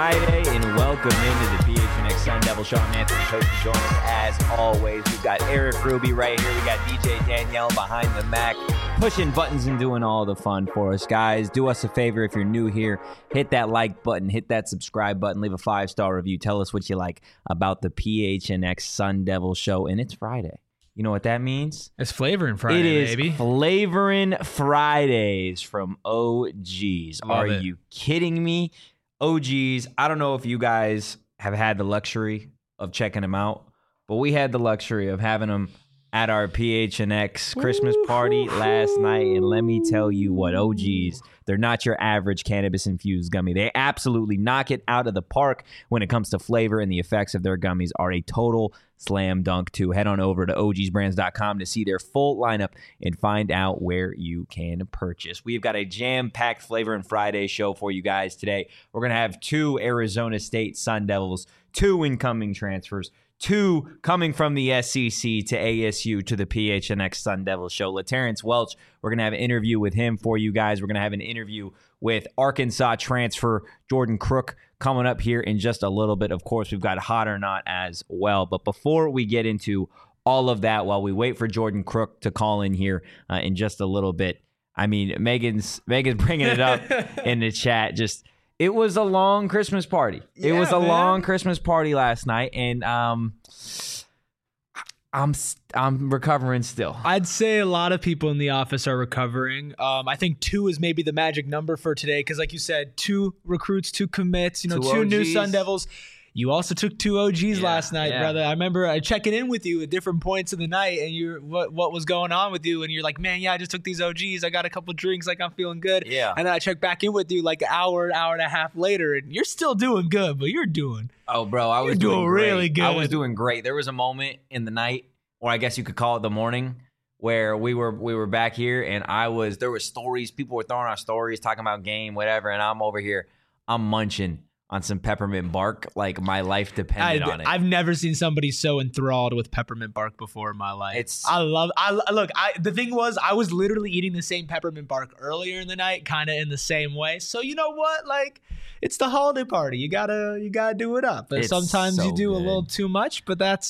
Friday, and welcome into the PHNX Sun Devil Show. I'm Anthony Coach, joining us as always. We've got Eric Ruby right here. We got DJ Danielle behind the Mac, pushing buttons and doing all the fun for us. Guys, do us a favor if you're new here. Hit that like button, hit that subscribe button, leave a 5-star review. Tell us what you like about the PHNX Sun Devil Show, and it's Friday. You know what that means? It's Flavoring Friday, it is baby. Flavoring Fridays from OGs. Are you kidding me? OGs, I don't know if you guys have had the luxury of checking them out, but we had the luxury of having them at our PHNX Christmas party last night, and let me tell you what, OGs, they're not your average cannabis-infused gummy. They absolutely knock it out of the park when it comes to flavor, and the effects of their gummies are a total slam dunk too. Head on over to ogsbrands.com to see their full lineup and find out where you can purchase. We've got a jam-packed Flavoring Friday show for you guys today. We're going to have 2 Arizona State Sun Devils, 2 incoming transfers, 2 coming from the SEC to ASU to the PHNX Sun Devils show. LaTerrence Welch, we're going to have an interview with him for you guys. We're going to have an interview with Arkansas transfer Jordan Crook coming up here in just a little bit. Of course, we've got Hot or Not as well. But before we get into all of that, while we wait for Jordan Crook to call in here in just a little bit, I mean, Megan's bringing it up in the chat. Just, it was a long Christmas party. It was a long Christmas party last night, and I'm recovering still. I'd say a lot of people in the office are recovering. I think 2 is maybe the magic number for today because, like you said, 2 recruits, 2 commits, 2 new Sun Devils. You also took 2 OGs last night, brother. I remember checking in with you at different points of the night, and what was going on with you, and you're like, man, I just took these OGs. I got a couple drinks, like I'm feeling good. Yeah. And then I checked back in with you like an hour and a half later, and you're still doing good, but you're doing. Oh, bro, I was doing really good. I was doing great. There was a moment in the night, or I guess you could call it the morning, where we were back here, and there were stories. People were throwing out stories, talking about game, whatever, and I'm over here. I'm munching on some peppermint bark, like my life depended on it. I've never seen somebody so enthralled with peppermint bark before in my life. The thing was, I was literally eating the same peppermint bark earlier in the night, kind of in the same way. So you know what? Like, it's the holiday party. You gotta do it up. But sometimes you do a little too much, but that's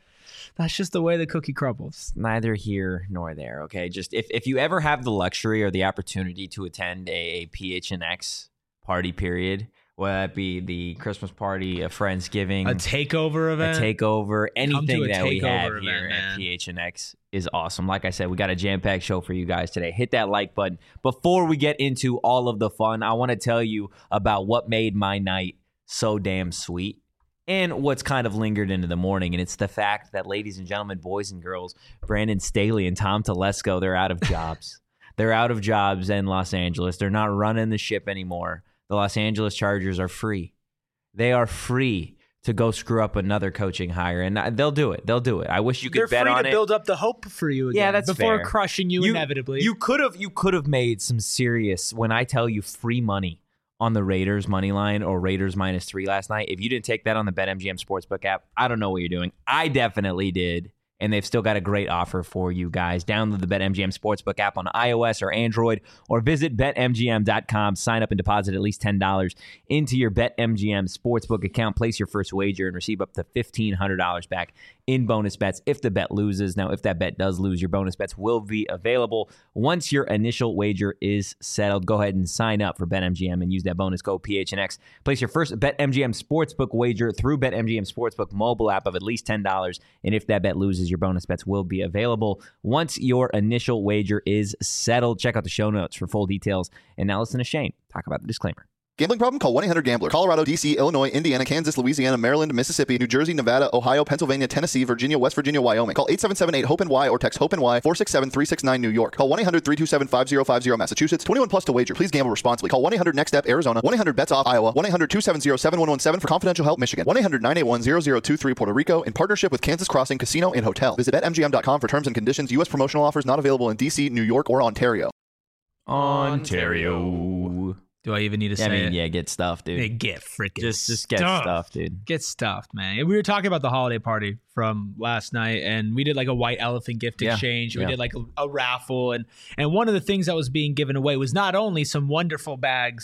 just the way the cookie crumbles. Neither here nor there, okay? Just if you ever have the luxury or the opportunity to attend a PHNX party period, whether that be the Christmas party, a Friendsgiving, a takeover event, anything that we have event, here man. at PHNX is awesome. Like I said, we got a jam-packed show for you guys today. Hit that like button. Before we get into all of the fun, I want to tell you about what made my night so damn sweet and what's kind of lingered into the morning. And it's the fact that, ladies and gentlemen, boys and girls, Brandon Staley and Tom Telesco, they're out of jobs. They're out of jobs in Los Angeles. They're not running the ship anymore. The Los Angeles Chargers are free. They are free to go screw up another coaching hire, and they'll do it. They'll do it. I wish you could bet on it. They're free to build up the hope for you again. Yeah, that's before fair. Crushing you inevitably. You could have made some serious, when I tell you, free money on the Raiders money line or Raiders -3 last night. If you didn't take that on the BetMGM Sportsbook app, I don't know what you're doing. I definitely did. And they've still got a great offer for you guys. Download the BetMGM Sportsbook app on iOS or Android, or visit BetMGM.com. Sign up and deposit at least $10 into your BetMGM Sportsbook account. Place your first wager and receive up to $1,500 back in bonus bets if the bet loses. Now, if that bet does lose, your bonus bets will be available once your initial wager is settled. Go ahead and sign up for BetMGM and use that bonus code PHNX. Place your first BetMGM Sportsbook wager through BetMGM Sportsbook mobile app of at least $10. And if that bet loses, your bonus bets will be available once your initial wager is settled. Check out the show notes for full details. And now listen to Shane talk about the disclaimer. Gambling problem? Call 1-800-GAMBLER. Colorado, D.C., Illinois, Indiana, Kansas, Louisiana, Maryland, Mississippi, New Jersey, Nevada, Ohio, Pennsylvania, Tennessee, Virginia, West Virginia, Wyoming. Call 877-8-HOPE-NY or text HOPE-NY 467-369 New York. Call 1-800-327-5050 Massachusetts. 21 plus to wager. Please gamble responsibly. Call 1-800-NEXT-STEP Arizona. 1-800-BETS-OFF Iowa. 1-800-270-7117 for confidential help Michigan. 1-800-981-0023 Puerto Rico in partnership with Kansas Crossing Casino and Hotel. Visit BetMGM.com for terms and conditions. U.S. promotional offers not available in D.C., New York, or Ontario. Ontario. Do I even need to say it? Yeah, get stuffed, dude. Hey, get freaking just get stuffed, dude. Get stuffed, man. We were talking about the holiday party from last night, and we did like a white elephant gift exchange. We did like a raffle, and one of the things that was being given away was not only some wonderful bags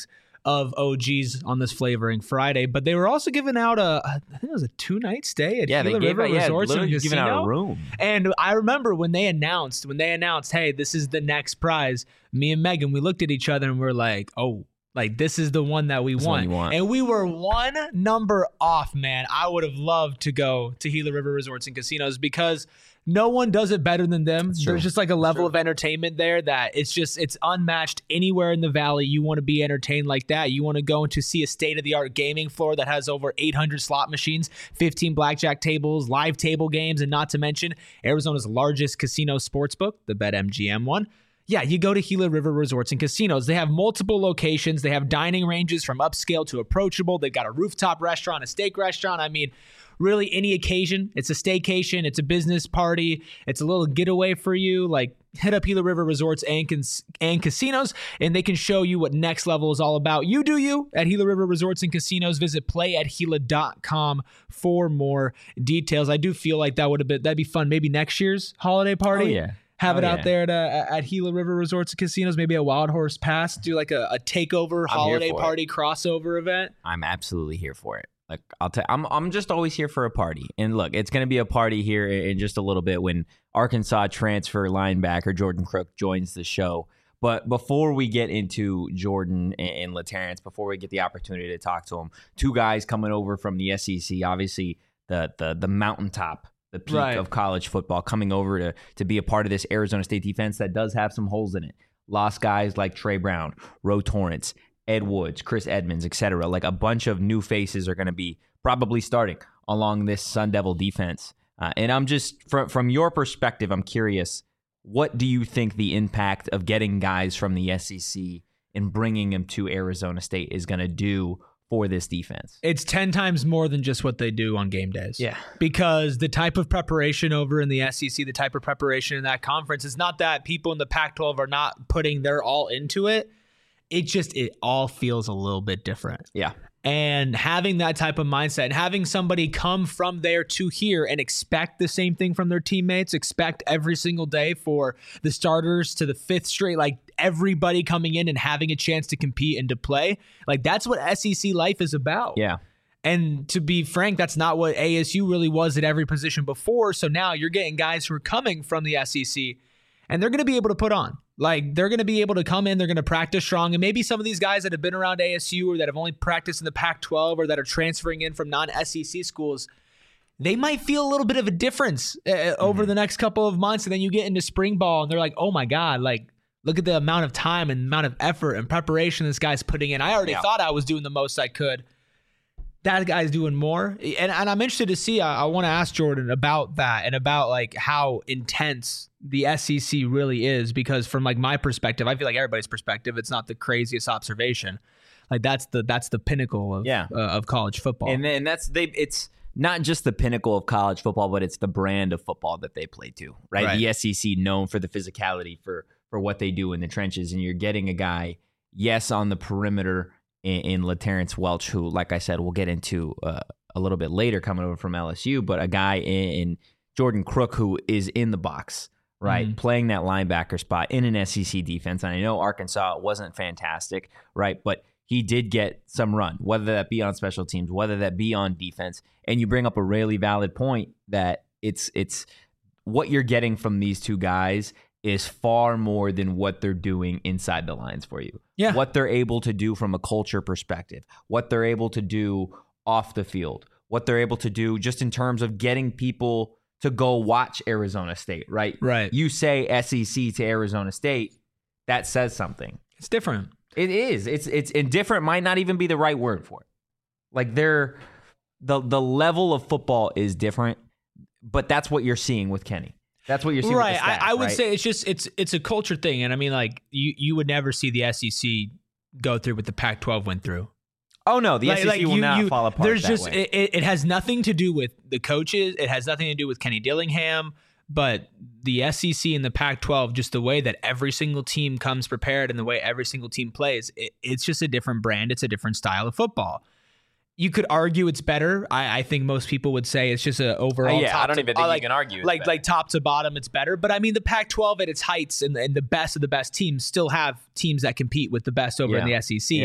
of OGs on this Flavoring Friday, but they were also giving out I think it was a 2-night stay at Gila River Resorts and Casino. Giving out a room. And I remember when they announced, hey, this is the next prize, me and Megan, we looked at each other and we're like, oh, like this is the one that we want. And we were one number off, man. I would have loved to go to Gila River Resorts and Casinos because no one does it better than them. There's just like a level of entertainment there that it's unmatched anywhere in the valley. You want to be entertained like that. You want to go to see a state-of-the-art gaming floor that has over 800 slot machines, 15 blackjack tables, live table games, and not to mention Arizona's largest casino sportsbook, the BetMGM one. Yeah, you go to Gila River Resorts and Casinos. They have multiple locations. They have dining ranges from upscale to approachable. They've got a rooftop restaurant, a steak restaurant. I mean, really any occasion. It's a staycation. It's a business party. It's a little getaway for you. Like, hit up Gila River Resorts and Casinos, and they can show you what next level is all about. You do you at Gila River Resorts and Casinos. Visit playathila.com for more details. I do feel like that'd be fun. Maybe next year's holiday party. Oh, yeah. Have it out there at Gila River Resorts and Casinos, maybe a Wild Horse Pass, do like a takeover holiday party crossover event. I'm absolutely here for it. Like I'm just always here for a party. And look, it's going to be a party here in just a little bit when Arkansas transfer linebacker Jordan Crook joins the show. But before we get into Jordan and LaTerrence, before we get the opportunity to talk to him, two guys coming over from the SEC, obviously the mountaintop, the peak of college football, coming over to be a part of this Arizona State defense that does have some holes in it. Lost guys like Trey Brown, Ro Torrance, Ed Woods, Chris Edmonds, etc. Like a bunch of new faces are going to be probably starting along this Sun Devil defense. And I'm just, from your perspective, I'm curious, what do you think the impact of getting guys from the SEC and bringing them to Arizona State is going to do for this defense? It's 10 times more than just what they do on game days. Yeah. Because the type of preparation over in the SEC, the type of preparation in that conference, it's not that people in the Pac-12 are not putting their all into it. It all feels a little bit different. Yeah. And having that type of mindset and having somebody come from there to here and expect the same thing from their teammates, expect every single day for the starters to the fifth straight, like everybody coming in and having a chance to compete and to play. Like that's what SEC life is about. Yeah. And to be frank, that's not what ASU really was at every position before. So now you're getting guys who are coming from the SEC and they're going to be able to put on. Like, they're going to be able to come in, they're going to practice strong, and maybe some of these guys that have been around ASU or that have only practiced in the Pac-12 or that are transferring in from non-SEC schools, they might feel a little bit of a difference over the next couple of months, and then you get into spring ball, and they're like, oh my God, like, look at the amount of time and amount of effort and preparation this guy's putting in. I already thought I was doing the most I could. That guy's doing more. And I'm interested to see, I want to ask Jordan about that and about like how intense the SEC really is, because from like my perspective, I feel like everybody's perspective, it's not the craziest observation. Like that's the pinnacle of college football. And then it's not just the pinnacle of college football, but it's the brand of football that they play too, right? The SEC known for the physicality, for what they do in the trenches. And you're getting a guy, yes, on the perimeter in LaTerrence Welch, who, like I said, we'll get into a little bit later, coming over from LSU, but a guy in Jordan Crook who is in the box, right, playing that linebacker spot in an SEC defense. And I know Arkansas wasn't fantastic, right, but he did get some run, whether that be on special teams, whether that be on defense. And you bring up a really valid point that it's what you're getting from these two guys is far more than what they're doing inside the lines for you. Yeah. What they're able to do from a culture perspective, what they're able to do off the field, what they're able to do just in terms of getting people to go watch Arizona State, right? Right. You say SEC to Arizona State, that says something. It's different. It is. It's indifferent might not even be the right word for it. Like the level of football is different, but that's what you're seeing with Kenny. That's what you're seeing. Right. With the staff, I would right? say it's a culture thing. And I mean, like you would never see the SEC go through what the Pac-12 went through. Oh no, the SEC will not fall apart. There's that just way. It has nothing to do with the coaches. It has nothing to do with Kenny Dillingham. But the SEC and the Pac-12, just the way that every single team comes prepared and the way every single team plays, it's just a different brand. It's a different style of football. You could argue it's better. I think most people would say it's just an overall. I don't even think you can argue. Like top to bottom, it's better. But I mean, the Pac-12 at its heights and the best of the best teams still have teams that compete with the best over in the SEC. Yeah.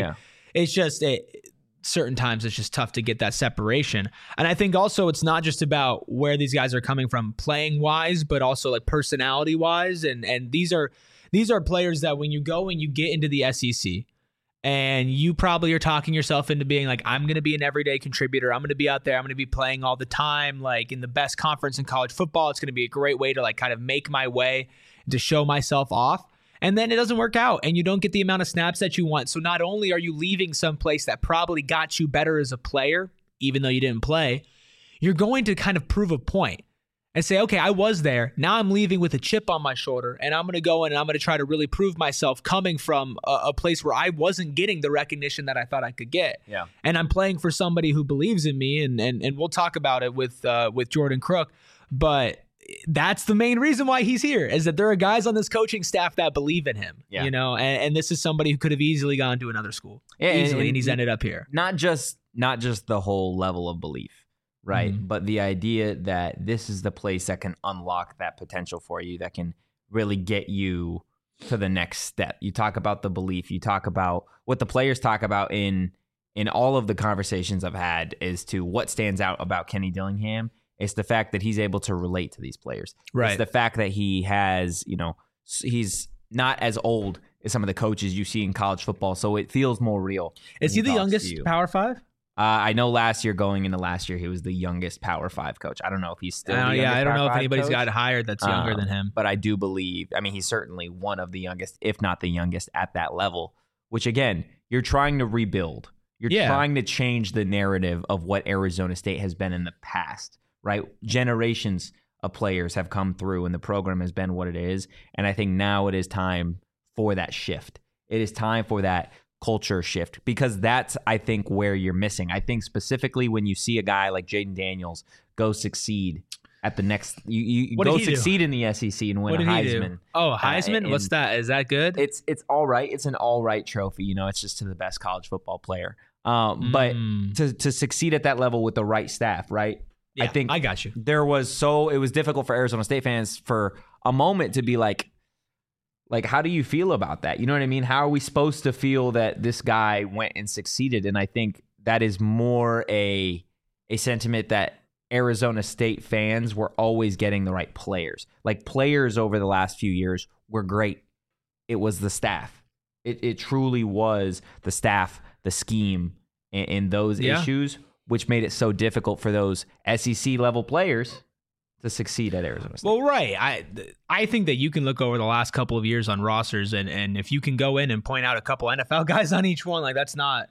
it's just certain times it's just tough to get that separation. And I think also it's not just about where these guys are coming from playing wise, but also like personality wise. And these are players that when you go and you get into the SEC and you probably are talking yourself into being like, I'm going to be an everyday contributor. I'm going to be out there. I'm going to be playing all the time, like in the best conference in college football. It's going to be a great way to like kind of make my way, to show myself off. And then it doesn't work out and you don't get the amount of snaps that you want. So not only are you leaving someplace that probably got you better as a player, even though you didn't play, you're going to kind of prove a point and say, okay, I was there. Now I'm leaving with a chip on my shoulder and I'm going to go in and I'm going to try to really prove myself coming from a place where I wasn't getting the recognition that I thought I could get. Yeah. And I'm playing for somebody who believes in me. And we'll talk about it with Jordan Crook. But that's the main reason why he's here, is that there are guys on this coaching staff that believe in him, you know, and this is somebody who could have easily gone to another school easily, and he's ended up here. Not just the whole level of belief, right? Mm-hmm. But the idea that this is the place that can unlock that potential for you, that can really get you to the next step. You talk about the belief, you talk about what the players talk about in all of the conversations I've had as to what stands out about Kenny Dillingham. It's the fact that he's able to relate to these players. Right. It's the fact that he has, you know, he's not as old as some of the coaches you see in college football, so it feels more real. Is he the youngest Power 5? I know going into last year, he was the youngest Power 5 coach. I don't know if he's still the youngest I don't know if Power 5 anybody's coach. got hired that's younger than him. But I do believe, I mean, he's certainly one of the youngest, if not the youngest at that level, which again, you're trying to rebuild. You're trying to change the narrative of what Arizona State has been in the past. Right? Generations of players have come through and the program has been what it is. And I think now it is time for that shift. It is time for that culture shift, because that's, I think, where you're missing. I think specifically when you see a guy like Jaden Daniels go succeed at the next, you go succeed in the SEC and win a Heisman. Oh, Heisman? What's that? Is that good? It's all right. It's an all right trophy. You know, it's just to the best college football player. But to succeed at that level with the right staff, right? Yeah, I think I got you. It was difficult for Arizona State fans for a moment to be like, how do you feel about that? You know what I mean? How are we supposed to feel that this guy went and succeeded? And I think that is more a sentiment that Arizona State fans were always getting the right players. Like, players over the last few years were great. It was the staff. It truly was the staff, the scheme, and those issues, which made it so difficult for those SEC level players to succeed at Arizona State. Well, right. I think that you can look over the last couple of years on rosters, and if you can go in and point out a couple NFL guys on each one, like that's not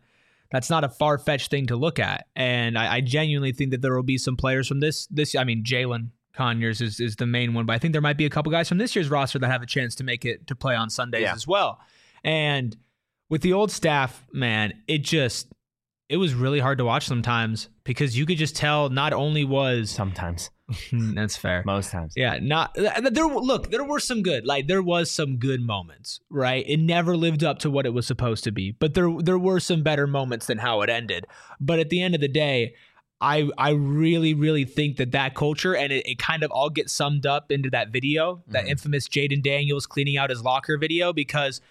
a far-fetched thing to look at. And I genuinely think that there will be some players from this. I mean, Jalen Conyers is the main one, but I think there might be a couple guys from this year's roster that have a chance to make it to play on Sundays as well. And with the old staff, man, it was really hard to watch sometimes, because you could just tell not only was sometimes that's fair, most times, there were some good, like there was some good moments, right? It never lived up to what it was supposed to be, but there were some better moments than how it ended. But at the end of the day, I really, really think that culture, and it kind of all gets summed up into that video, that infamous Jaden Daniels cleaning out his locker video, because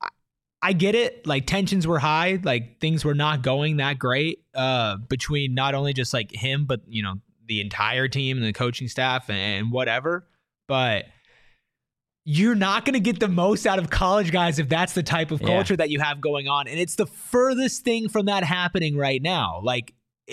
I get it. Like, tensions were high. Like, things were not going that great between not only just like him, but, you know, the entire team and the coaching staff and whatever. But you're not going to get the most out of college guys if that's the type of culture that you have going on. And it's the furthest thing from that happening right now. Like,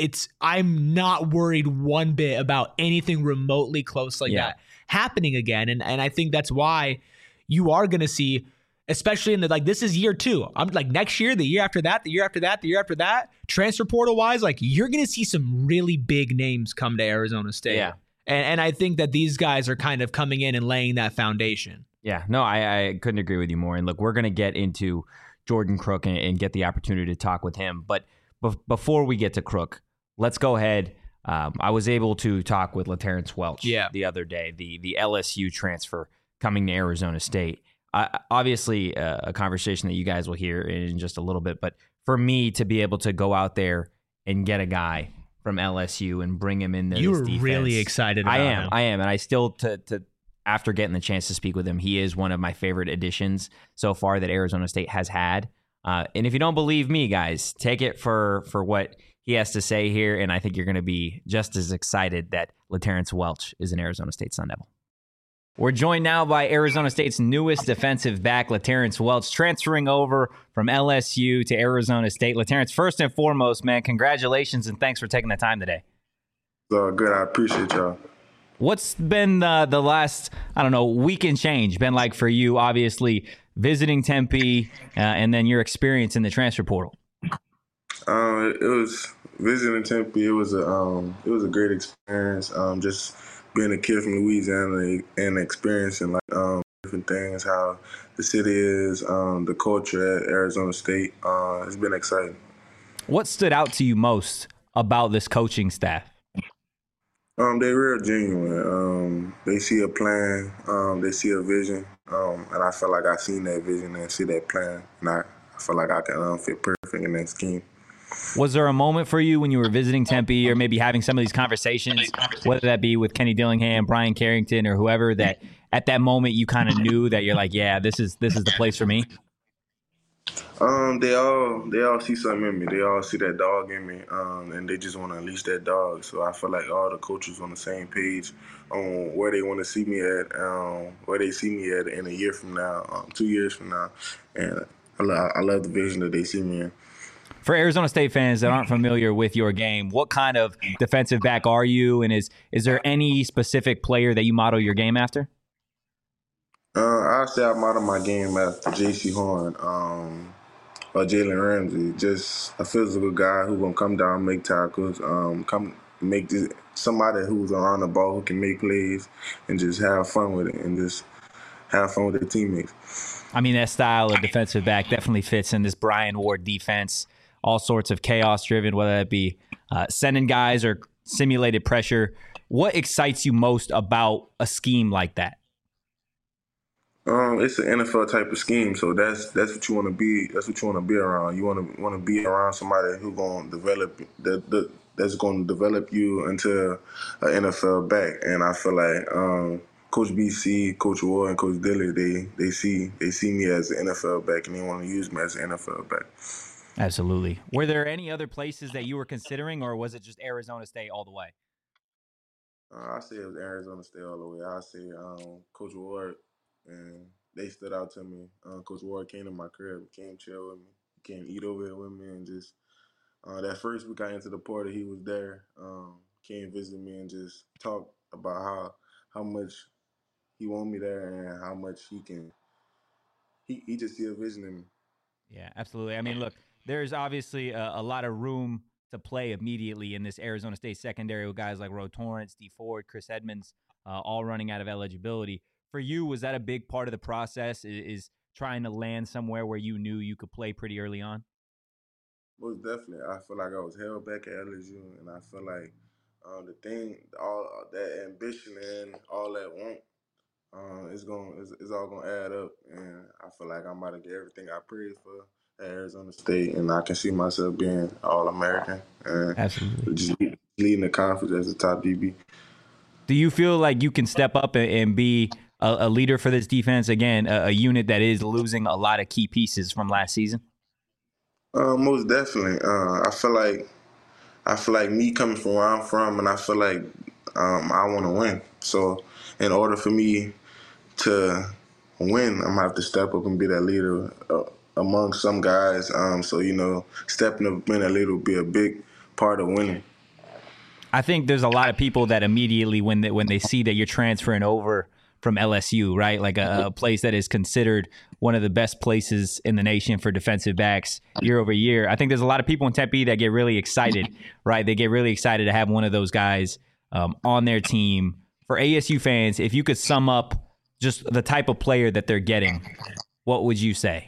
I'm not worried one bit about anything remotely close like that happening again. And I think that's why you are going to see, especially in this is year 2. I'm like, next year, the year after that, the year after that, the year after that, transfer portal wise, like, you're going to see some really big names come to Arizona State. Yeah. And I think that these guys are kind of coming in and laying that foundation. Yeah, no, I couldn't agree with you more. And look, we're going to get into Jordan Crook and get the opportunity to talk with him. But before we get to Crook, let's go ahead. I was able to talk with LaTerrence Welch the other day, the LSU transfer coming to Arizona State. Obviously, a conversation that you guys will hear in just a little bit. But for me to be able to go out there and get a guy from LSU and bring him in there, you were really excited about him. I am. And I still, after getting the chance to speak with him, he is one of my favorite additions so far that Arizona State has had. And if you don't believe me, guys, take it for what he has to say here, and I think you're going to be just as excited that LaTerrence Welch is an Arizona State Sun Devil. We're joined now by Arizona State's newest defensive back, LaTerrence Welch, transferring over from LSU to Arizona State. LaTerrence, first and foremost, man, congratulations and thanks for taking the time today. Good. I appreciate y'all. What's been the last, week and change been like for you, obviously, visiting Tempe and then your experience in the transfer portal? It was visiting Tempe. It was a great experience. Just being a kid from Louisiana and experiencing different things, how the city is, the culture at Arizona State. It's been exciting. What stood out to you most about this coaching staff? They're real genuine. They see a plan. They see a vision. And I feel like I seen that vision and see that plan. And I feel like I can fit perfect in that scheme. Was there a moment for you when you were visiting Tempe or maybe having some of these conversations, whether that be with Kenny Dillingham, Brian Carrington, or whoever, that at that moment you kind of knew that you're like, yeah, this is the place for me? They all see something in me. They all see that dog in me, and they just want to unleash that dog. So I feel like all the coaches on the same page on where they want to see me at, where they see me at in a year from now, 2 years from now, and I love the vision that they see me in. For Arizona State fans that aren't familiar with your game, what kind of defensive back are you, and is there any specific player that you model your game after? I say I model my game after J.C. Horn. Or Jalen Ramsey, just a physical guy who gonna come down, make tackles, somebody who's around the ball who can make plays and just have fun with it and just have fun with their teammates. I mean, that style of defensive back definitely fits in this Brian Ward defense. All sorts of chaos driven, whether that be sending guys or simulated pressure. What excites you most about a scheme like that? It's an NFL type of scheme, so that's what you want to be. That's what you want to be around. You want to be around somebody who's going to develop that's going to develop you into an NFL back. And I feel like Coach BC, Coach Ward, and Coach Dilly, they see me as an NFL back, and they want to use me as an NFL back. Absolutely. Were there any other places that you were considering, or was it just Arizona State all the way? I say it was Arizona State all the way. I say Coach Ward. And they stood out to me. Coach Ward came to my crib, came chill with me, came eat over here with me, and just that first week I entered the portal, he was there, came visit me and just talk about how much he want me there and how much he just see a vision in me. Yeah, absolutely. I mean, look, there's obviously a lot of room to play immediately in this Arizona State secondary with guys like Ro Torrance, D Ford, Chris Edmonds, all running out of eligibility. For you, was that a big part of the process, is trying to land somewhere where you knew you could play pretty early on? Most definitely. I feel like I was held back at LSU, and I feel like all that ambition and all that want, it's all gonna add up, and I feel like I'm about to get everything I prayed for at Arizona State, and I can see myself being All-American and absolutely just leading the conference as a top DB. Do you feel like you can step up and be a leader for this defense? Again, a unit that is losing a lot of key pieces from last season. Most definitely. I feel like me coming from where I'm from, and I feel like I want to win. So, in order for me to win, I'm gonna have to step up and be that leader among some guys. So stepping up, being that leader will be a big part of winning. I think there's a lot of people that immediately, when they see that you're transferring over from LSU, right? Like a place that is considered one of the best places in the nation for defensive backs year over year. I think there's a lot of people in Tempe that get really excited, right? They get really excited to have one of those guys on their team. For ASU fans, if you could sum up just the type of player that they're getting, what would you say?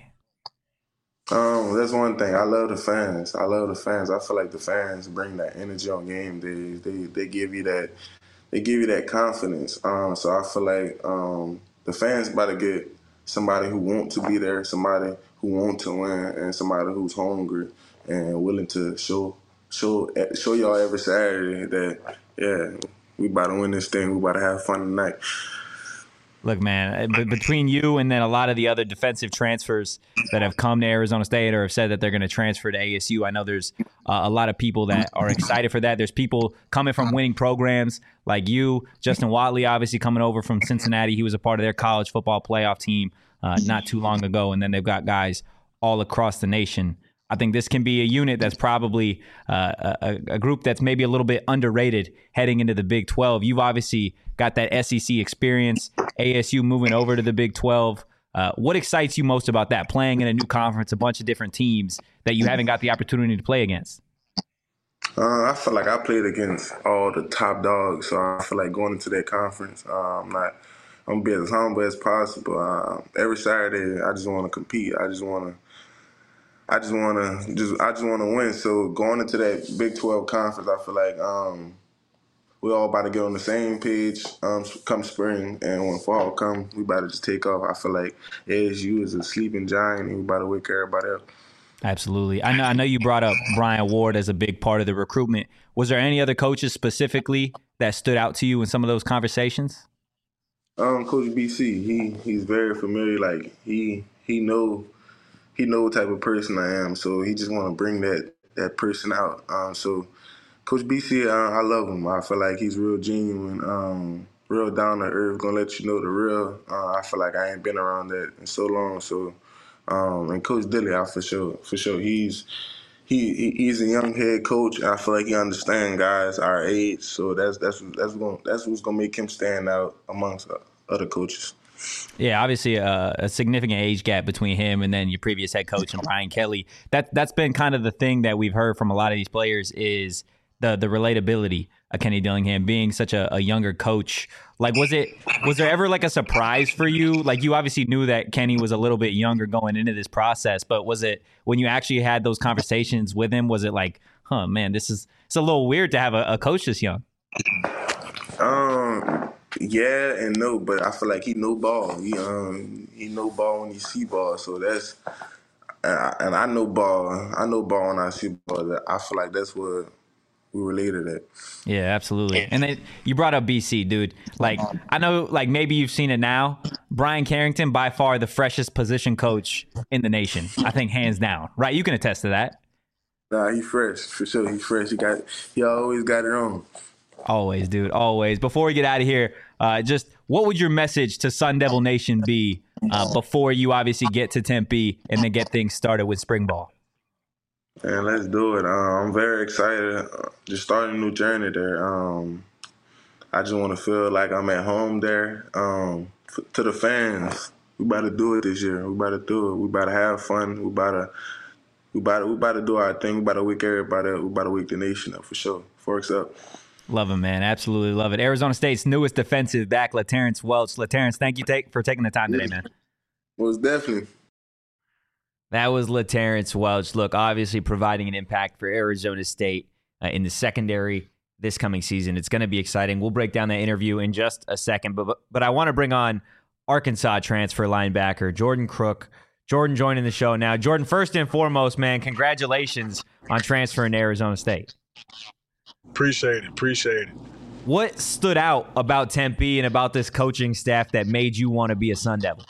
That's one thing. I love the fans. I feel like the fans bring that energy on game days. They give you that. They give you that confidence. So I feel like the fans about to get somebody who want to be there, somebody who want to win, and somebody who's hungry and willing to show y'all every Saturday that we about to win this thing. We about to have fun tonight. Look, man, between you and then a lot of the other defensive transfers that have come to Arizona State or have said that they're going to transfer to ASU, I know there's a lot of people that are excited for that. There's people coming from winning programs like you. Justin Watley, obviously, coming over from Cincinnati. He was a part of their college football playoff team not too long ago. And then they've got guys all across the nation. I think this can be a unit that's probably a group that's maybe a little bit underrated heading into the Big 12. You've obviously got that SEC experience, ASU moving over to the Big 12. What excites you most about that, playing in a new conference, a bunch of different teams that you haven't got the opportunity to play against? I feel like I played against all the top dogs, so I feel like going into that conference, I'm going to be as humble as possible. Every Saturday, I just want to compete. I just want to win. So going into that Big 12 conference, I feel like we're all about to get on the same page come spring, and when fall come, we about to just take off. I feel like ASU is a sleeping giant, and we about to wake everybody up. Absolutely. I know you brought up Brian Ward as a big part of the recruitment. Was there any other coaches specifically that stood out to you in some of those conversations? Coach BC, he's very familiar. Like he know what type of person I am, so he just want to bring that person out. So Coach BC, I love him. I feel like he's real genuine, real down to earth, gonna let you know the real. I feel like I ain't been around that in so long. So, and Coach Dilly, for sure, he's a young head coach. I feel like he understands guys our age. So that's what's gonna make him stand out amongst other coaches. Yeah, obviously a significant age gap between him and then your previous head coach and Brian Kelly. That's been kind of the thing that we've heard from a lot of these players is the relatability of Kenny Dillingham being such a younger coach. Like, was there ever like a surprise for you? Like, you obviously knew that Kenny was a little bit younger going into this process, but was it when you actually had those conversations with him, was it like, huh, man, it's a little weird to have a coach this young? Yeah and no, but I feel like he know ball. He know ball when he see ball. So that's and I know ball. I know ball when I see ball. I feel like that's what we related at. Yeah, absolutely. And then you brought up BC, dude. Like, I know, like, maybe you've seen it now. Brian Carrington, by far the freshest position coach in the nation. I think hands down. Right? You can attest to that. Nah, he fresh for sure. He fresh. He always got it on. Always, dude. Always. Before we get out of here, just what would your message to Sun Devil Nation be before you obviously get to Tempe and then get things started with spring ball? And let's do it. I'm very excited. Just starting a new journey there. I just want to feel like I'm at home there. To the fans, we about to do it this year. We about to do it. We about to have fun. We about to do our thing. We about to wake everybody up. We about to wake the nation up for sure. Forks up. Love him, man. Absolutely love it. Arizona State's newest defensive back, LaTerrence Welch. LaTerrence, thank you for taking the time today, man. Most definitely. That was LaTerrence Welch. Look, obviously providing an impact for Arizona State in the secondary this coming season. It's going to be exciting. We'll break down that interview in just a second. But I want to bring on Arkansas transfer linebacker Jordan Crook. Jordan joining the show now. Jordan, first and foremost, man, congratulations on transferring to Arizona State. Appreciate it. What stood out about Tempe and about this coaching staff that made you want to be a Sun Devil?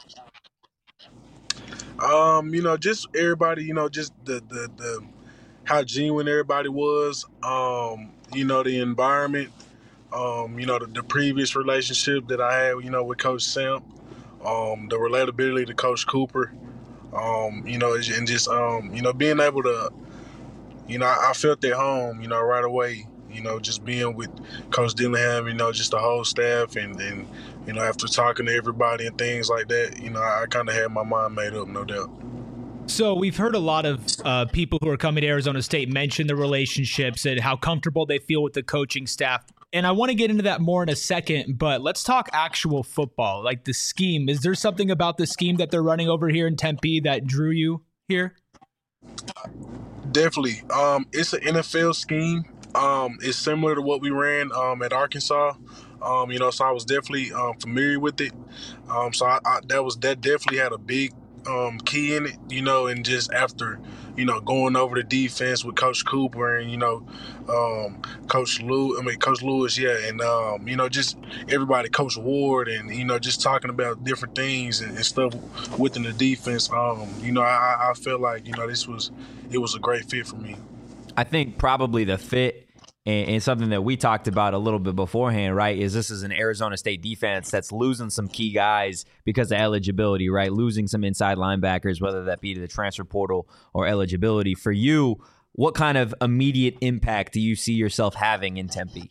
Just everybody, just the how genuine everybody was. The environment. The previous relationship that I had, with Coach Sam. The relatability to Coach Cooper. And just being able to, I felt at home, right away. Just being with Coach Dillingham, just the whole staff and after talking to everybody and things like that, I kind of had my mind made up, no doubt. So we've heard a lot of people who are coming to Arizona State mention the relationships and how comfortable they feel with the coaching staff. And I want to get into that more in a second, but let's talk actual football, like the scheme. Is there something about the scheme that they're running over here in Tempe that drew you here? Definitely. It's an NFL scheme. It's similar to what we ran at Arkansas. So I was definitely familiar with it. So that definitely had a big key in it, you know, and just after, you know, going over the defense with Coach Cooper and, you know, Coach Lewis, yeah, and, you know, just everybody, Coach Ward, and, you know, just talking about different things and stuff within the defense, you know, I felt like, you know, it was a great fit for me. I think probably the fit and something that we talked about a little bit beforehand, right, is this is an Arizona State defense that's losing some key guys because of eligibility, right? Losing some inside linebackers, whether that be to the transfer portal or eligibility. For you, what kind of immediate impact do you see yourself having in Tempe?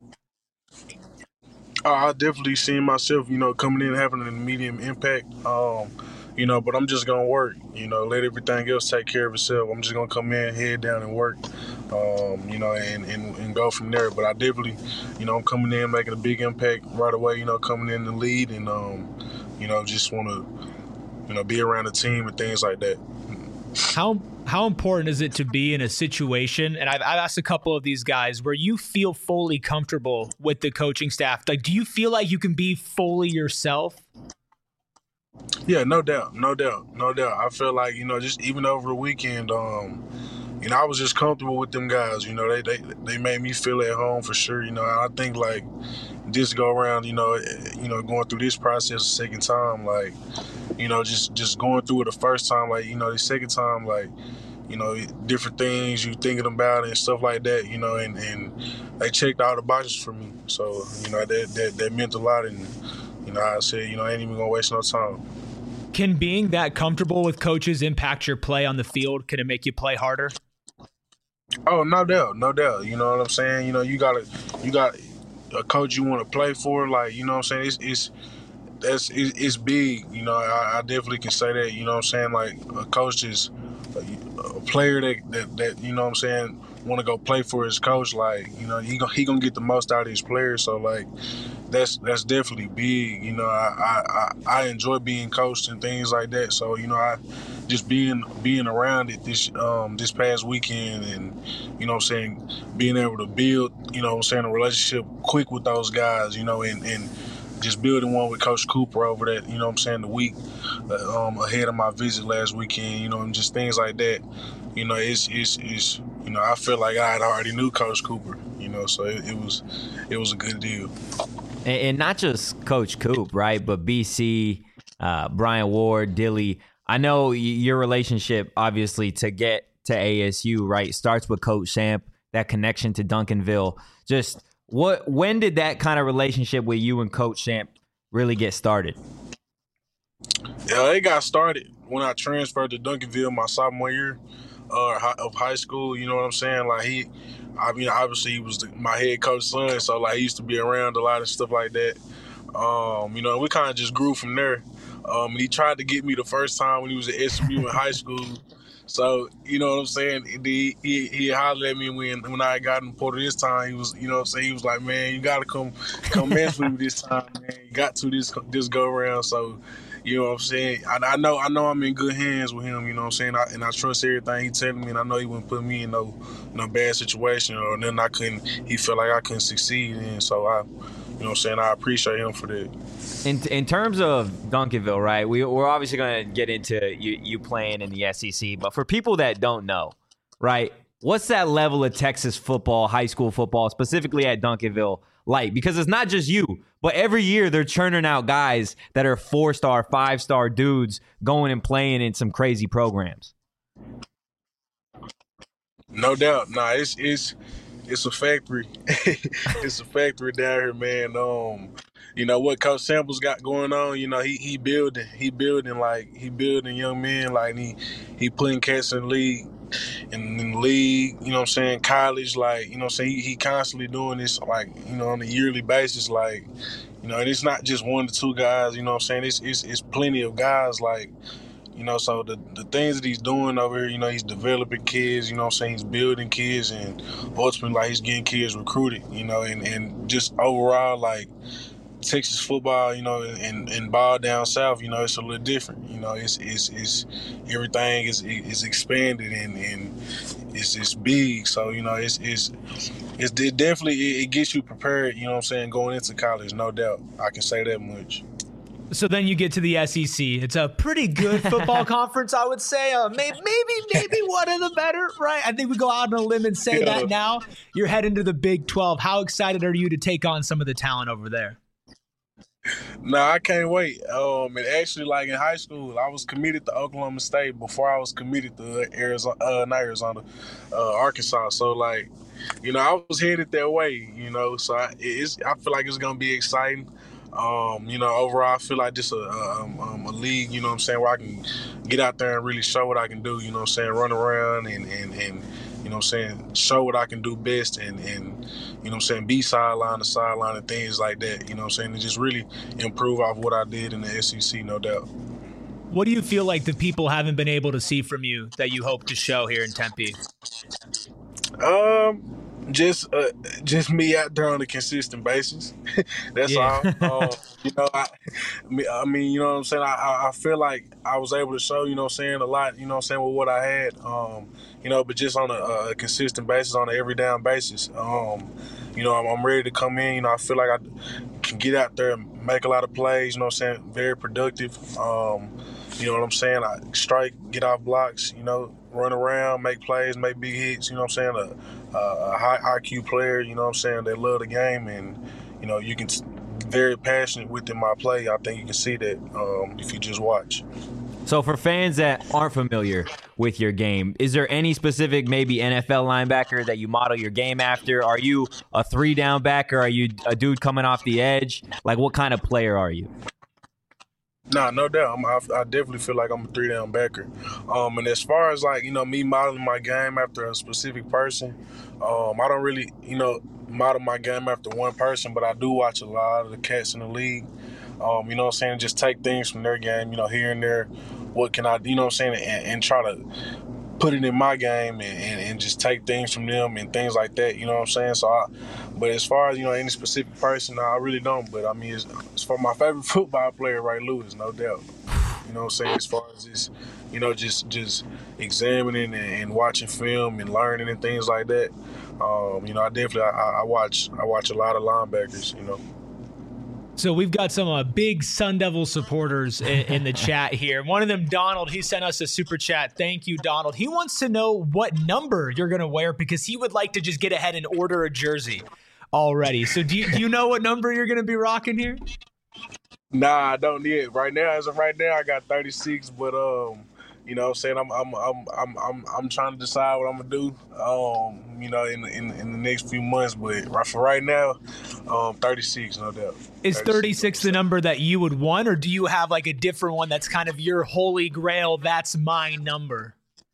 I definitely see myself, you know, coming in and having an immediate impact. You know, but I'm just going to work, you know, let everything else take care of itself. I'm just going to come in, head down and work, you know, and go from there. But I definitely, you know, I'm coming in, making a big impact right away, you know, coming in the lead and, you know, just want to, you know, be around the team and things like that. How important is it to be in a situation, and I've asked a couple of these guys, where you feel fully comfortable with the coaching staff? Like, do you feel like you can be fully yourself? Yeah, no doubt. I feel like, you know, just even over the weekend, you know, I was just comfortable with them guys. You know, they made me feel at home for sure. You know, I think like just go around, you know, going through this process a second time, like, you know, just going through it the first time, like, you know, the second time, like, you know, different things you thinking about and stuff like that, you know, and they checked all the boxes for me. So, you know, that meant a lot. And, you know, I said, you know, I ain't even gonna waste no time. Can being that comfortable with coaches impact your play on the field? Can it make you play harder? Oh, no doubt. You know what I'm saying? You know, you got a coach you want to play for, like, you know what I'm saying? It's big. You know, I definitely can say that. You know what I'm saying? Like, a coach is a player that you know what I'm saying, want to go play for his coach. Like, you know, he gonna get the most out of his players. So, like, that's definitely big. You know, I enjoy being coached and things like that. So, you know, I just being around it this past weekend, and, you know what I'm saying, being able to build, you know what I'm saying, a relationship quick with those guys, you know, and just building one with Coach Cooper over that, you know what I'm saying, the week ahead of my visit last weekend, you know, and just things like that. You know, it's you know, I feel like I had already knew Coach Cooper, you know, so it was a good deal. And not just Coach Coop, right, but BC, Brian Ward, Dilly. I know your relationship, obviously, to get to ASU, right, starts with Coach Samp, that connection to Duncanville. Just when did that kind of relationship with you and Coach Samp really get started? Yeah, it got started when I transferred to Duncanville my sophomore year of high school. You know what I'm saying? Like, obviously he was my head coach's son, so like he used to be around a lot of stuff like that. You know, we kind of just grew from there. He tried to get me the first time when he was at SMU in high school. So, you know what I'm saying? He hollered at me when I got in Porter this time. He was, you know what I'm saying? He was like, man, you got to come mess with me this time, man. You got to this go around. So, you know what I'm saying? I know I'm in good hands with him, you know what I'm saying? I trust everything he's telling me, and I know he wouldn't put me in no bad situation or nothing he felt like I couldn't succeed in. So, you know what I'm saying? I appreciate him for that. In terms of Duncanville, right, we're obviously going to get into you playing in the SEC, but for people that don't know, right, what's that level of Texas football, high school football, specifically at Duncanville, like? Because it's not just you, but every year they're churning out guys that are 4-star, 5-star dudes going and playing in some crazy programs. No doubt. Nah, it's a factory. It's a factory down here, man. You know what Coach Samples got going on, you know, he building young men, like he putting cats in the league, you know what I'm saying, college, like, you know what I'm saying, he constantly doing this, like, you know, on a yearly basis, like, you know, and it's not just 1 to 2 guys, you know what I'm saying, it's plenty of guys, like, you know, so the things that he's doing over here, you know, he's developing kids, you know what I'm saying, he's building kids, and ultimately, like, he's getting kids recruited, you know, and just overall, like, Texas football, you know, and ball down south, you know, it's a little different. You know, it's everything is expanded and it's big. So, you know, it definitely it gets you prepared, you know what I'm saying, going into college, no doubt. I can say that much. So then you get to the SEC. It's a pretty good football conference, I would say. Maybe one of the better, right? I think we go out on a limb and say that now. You're heading to the Big 12. How excited are you to take on some of the talent over there? No, I can't wait. And actually, like in high school, I was committed to Oklahoma State before I was committed to Arkansas. So, like, you know, I was headed that way, you know. So I feel like it's going to be exciting. You know, overall, I feel like just a league, you know what I'm saying, where I can get out there and really show what I can do, you know what I'm saying, run around and you know what I'm saying, show what I can do best and you know what I'm saying, be sideline to sideline and things like that, you know what I'm saying, and just really improve off what I did in the SEC, no doubt. What do you feel like the people haven't been able to see from you that you hope to show here in Tempe? Just me out there on a consistent basis. That's all. You know, I mean, you know what I'm saying? I feel like I was able to show, you know what I'm saying, a lot, you know what I'm saying, with what I had, you know, but just on a consistent basis, on an every down basis. You know, I'm ready to come in. You know, I feel like I can get out there and make a lot of plays, you know what I'm saying, very productive. You know what I'm saying? I strike, get off blocks, you know, run around, make plays, make big hits, you know what I'm saying? A high IQ player, you know what I'm saying? They love the game, and, you know, you can very passionate within my play. I think you can see that if you just watch. So for fans that aren't familiar with your game, is there any specific maybe NFL linebacker that you model your game after? Are you a 3-down backer? Are you a dude coming off the edge? Like, what kind of player are you? Nah, no doubt. I definitely feel like I'm a 3-down backer. And as far as, like, you know, me modeling my game after a specific person, I don't really, you know, model my game after one person, but I do watch a lot of the cats in the league. You know what I'm saying? Just take things from their game, you know, here and there. What can I, you know what I'm saying? And try to put it in my game and just take things from them and things like that, you know what I'm saying? So, but as far as, you know, any specific person, no, I really don't. But, I mean, it's for my favorite football player, Ray Lewis, no doubt. You know what I'm saying? As far as this, you know, just examining and watching film and learning and things like that. You know, I watch a lot of linebackers, you know. So we've got some big Sun Devil supporters in the chat here. One of them, Donald, he sent us a super chat. Thank you, Donald. He wants to know what number you're going to wear because he would like to just get ahead and order a jersey already. So do you know what number you're going to be rocking here? Nah, I don't yet. Right now, as of right now, I got 36, but you know what I'm saying, I'm trying to decide what I'm gonna do, you know, in the next few months, but for right now, 36, no doubt. Is 36 the number that you would want, or do you have like a different one that's kind of your holy grail, that's my number?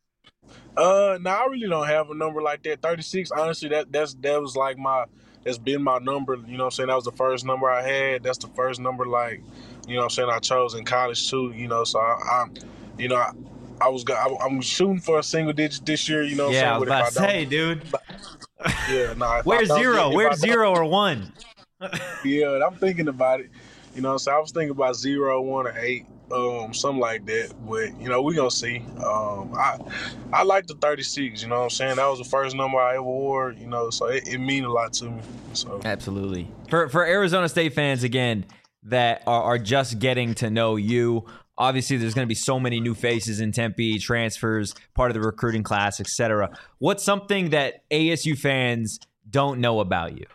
No, I really don't have a number like that. 36, honestly, that was like that's been my number, you know what I'm saying? That was the first number I had. That's the first number, like, you know what I'm saying, I chose in college too, you know, so I'm shooting for a single digit this year, you know what I'm saying? Yeah, I was about to say, dude. Yeah, nah. Where's zero? Where's 0 or 1? Yeah, I'm thinking about it. You know what I'm saying? I was thinking about 0, 1, or 8, something like that. But, you know, we're going to see. I like the 36, you know what I'm saying? That was the first number I ever wore, you know, so it means a lot to me. So Absolutely. For Arizona State fans, again, that are just getting to know you, obviously, there's going to be so many new faces in Tempe, transfers, part of the recruiting class, etc. What's something that ASU fans don't know about you?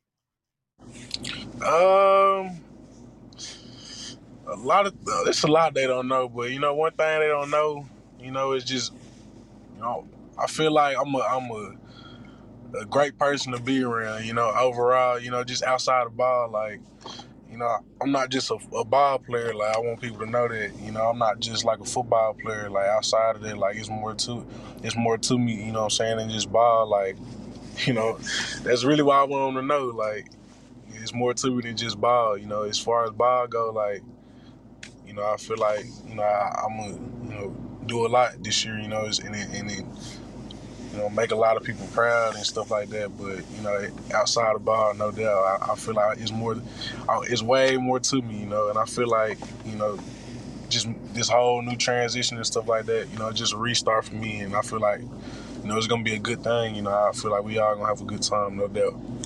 There's a lot they don't know, but you know, one thing they don't know, you know, is just, you know, I feel like I'm a great person to be around. You know, overall, you know, just outside the ball, like. You know, I'm not just a ball player. Like, I want people to know that, you know, I'm not just like a football player. Like, outside of that, like, it's more to me, you know what I'm saying, than just ball. Like, you know, that's really why I want them to know. Like, it's more to me than just ball. You know, as far as ball go, like, you know, I feel like, you know, I'm going to, you know, do a lot this year, you know, and it you know, make a lot of people proud and stuff like that. But, you know, outside the ball, no doubt, I feel like it's way more to me, you know. And I feel like, you know, just this whole new transition and stuff like that, you know, just a restart for me. And I feel like, you know, it's going to be a good thing. You know, I feel like we all going to have a good time, no doubt.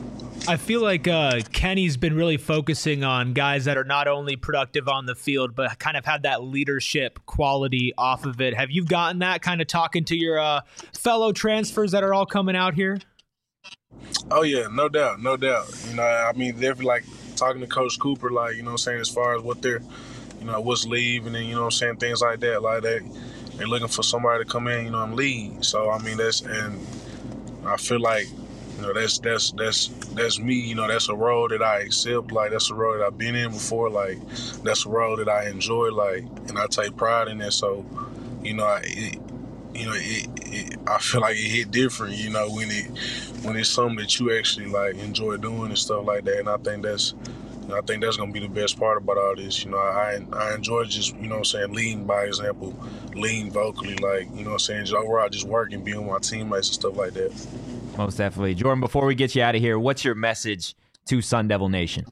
I feel like Kenny's been really focusing on guys that are not only productive on the field, but kind of have that leadership quality off of it. Have you gotten that kind of talking to your fellow transfers that are all coming out here? Oh, yeah, no doubt. You know, I mean, definitely like talking to Coach Cooper, like, you know what I'm saying, as far as what they're, you know, what's leaving and, you know what I'm saying, things like that. They're looking for somebody to come in, you know, and lead. So, I mean, and I feel like, you know, that's me. You know, that's a role that I accept. Like, that's a role that I've been in before. Like, that's a role that I enjoy. Like, and I take pride in it. So, you know, I feel like it hit different. You know, when it's something that you actually like enjoy doing and stuff like that. And I think that's gonna be the best part about all this. You know, I enjoy just, you know what I'm saying, leading by example, leading vocally, like, you know what I'm saying, just overall just working, being with my teammates and stuff like that. Most definitely. Jordan, before we get you out of here, what's your message to Sun Devil Nation?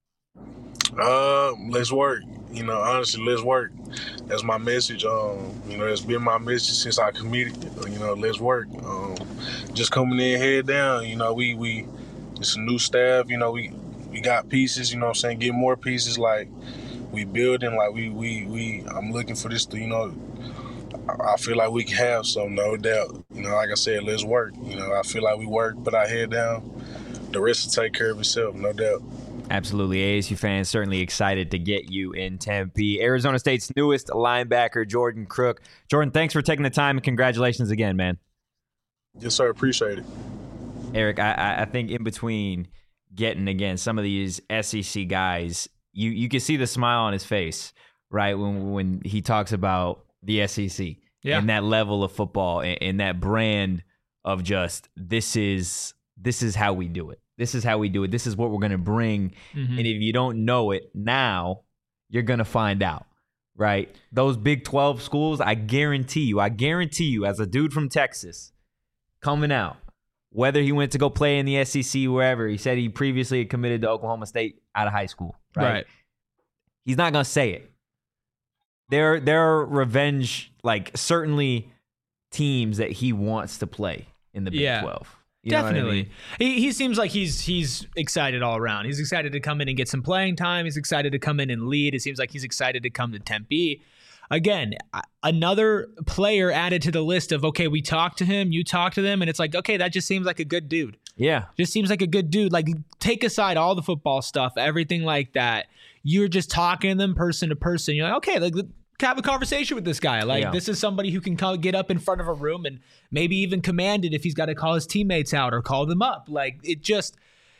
Let's work. You know, honestly, let's work. That's my message. You know, that's been my message since I committed. You know, let's work. Just coming in head down. You know, we it's a new staff. You know, we got pieces. You know what I'm saying, get more pieces. Like, we building. Like, I'm looking for this to, you know, I feel like we can have some, no doubt. You know, like I said, let's work. You know, I feel like we work, put our head down. The rest will take care of itself, no doubt. Absolutely. ASU fans certainly excited to get you in Tempe. Arizona State's newest linebacker, Jordan Crook. Jordan, thanks for taking the time, and congratulations again, man. Yes, sir. Appreciate it. Eric, I think in between getting, again, some of these SEC guys, you can see the smile on his face, right, when he talks about the SEC and that level of football and that brand of just this is how we do it. This is how we do it. This is what we're going to bring. Mm-hmm. And if you don't know it now, you're going to find out, right? Those Big 12 schools, I guarantee you, as a dude from Texas coming out, whether he went to go play in the SEC, wherever, he said he previously had committed to Oklahoma State out of high school, right? He's not going to say it. There are revenge, like, certainly teams that he wants to play in the Big 12. You Definitely. I mean? He seems like he's excited all around. He's excited to come in and get some playing time. He's excited to come in and lead. It seems like he's excited to come to Tempe. Again, another player added to the list of, okay, we talked to him, you talked to them, and it's like, okay, that just seems like a good dude. Yeah. Just seems like a good dude. Like, take aside all the football stuff, everything like that. You're just talking to them person to person. You're like, okay, like, have a conversation with this guy. Like, this is somebody who can get up in front of a room and maybe even command it if he's got to call his teammates out or call them up. Like, it just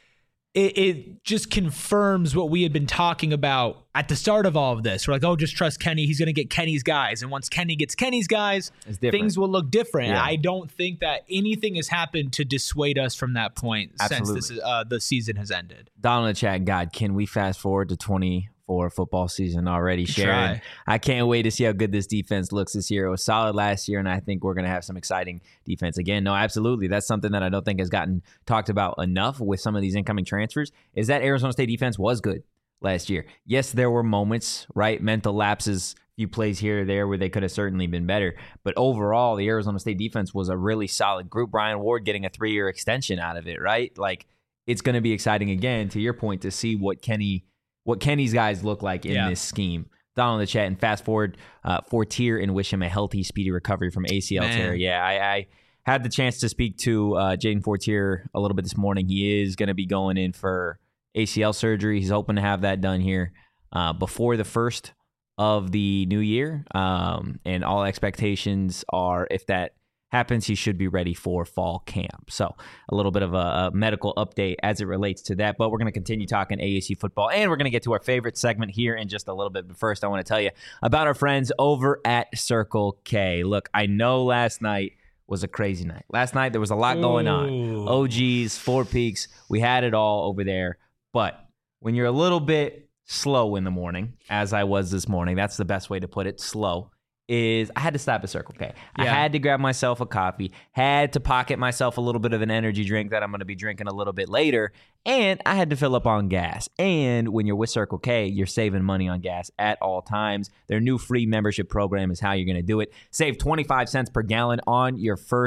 confirms what we had been talking about at the start of all of this. We're like, oh, just trust Kenny. He's going to get Kenny's guys. And once Kenny gets Kenny's guys, things will look different. Yeah. I don't think that anything has happened to dissuade us from that point since the season has ended. Donald in the chat, God, can we fast forward to 24 football season already, Sharon? I can't wait to see how good this defense looks this year. It was solid last year, and I think we're going to have some exciting defense again. No, absolutely. That's something that I don't think has gotten talked about enough with some of these incoming transfers, is that Arizona State defense was good last year. Yes, there were moments, right? Mental lapses, few plays here or there where they could have certainly been better. But overall, the Arizona State defense was a really solid group. Brian Ward getting a 3-year extension out of it, right? Like, it's going to be exciting again, to your point, to see what Kenny's guys look like in this scheme. Donald in the chat, and fast forward Fortier and wish him a healthy, speedy recovery from ACL tear. Yeah, I had the chance to speak to Jaden Fortier a little bit this morning. He is going to be going in for ACL surgery. He's hoping to have that done here before the first of the new year. And all expectations are, if that happens, he should be ready for fall camp. So a little bit of a medical update as it relates to that. But we're going to continue talking ASU football, and we're going to get to our favorite segment here in just a little bit. But first, I want to tell you about our friends over at Circle K. Look, I know last night was a crazy night. Last night, there was a lot going on. OGs, Four Peaks, we had it all over there. But when you're a little bit slow in the morning, as I was this morning, that's the best way to put it, slow, is I had to stop at Circle K. Yeah. I had to grab myself a coffee, had to pocket myself a little bit of an energy drink that I'm going to be drinking a little bit later, and I had to fill up on gas. And when you're with Circle K, you're saving money on gas at all times. Their new free membership program is how you're going to do it. Save 25 cents per gallon on your first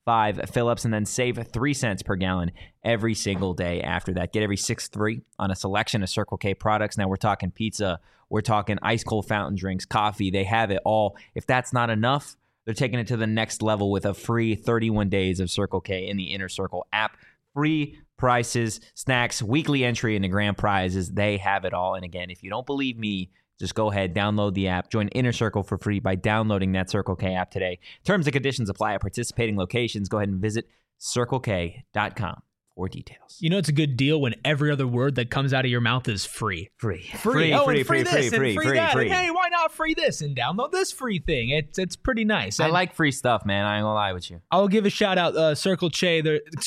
5 fill-ups, and then save 3 cents per gallon every single day after that. Get every 6-3 on a selection of Circle K products. Now we're talking pizza, we're talking ice cold fountain drinks, coffee. They have it all. If that's not enough, they're taking it to the next level with a free 31 days of Circle K in the Inner Circle app. Free prices, snacks, weekly entry into grand prizes. They have it all. And again, if you don't believe me, just go ahead, download the app, join Inner Circle for free by downloading that Circle K app today. Terms and conditions apply at participating locations. Go ahead and visit CircleK.com for details. You know it's a good deal when every other word that comes out of your mouth is free. Free. Oh, Free, and free, free free, this, free, and free free, that. free. And hey, why not free this and download this free thing? It's pretty nice. I And like free stuff, man. I ain't gonna lie with you. I'll give a shout out Circle K,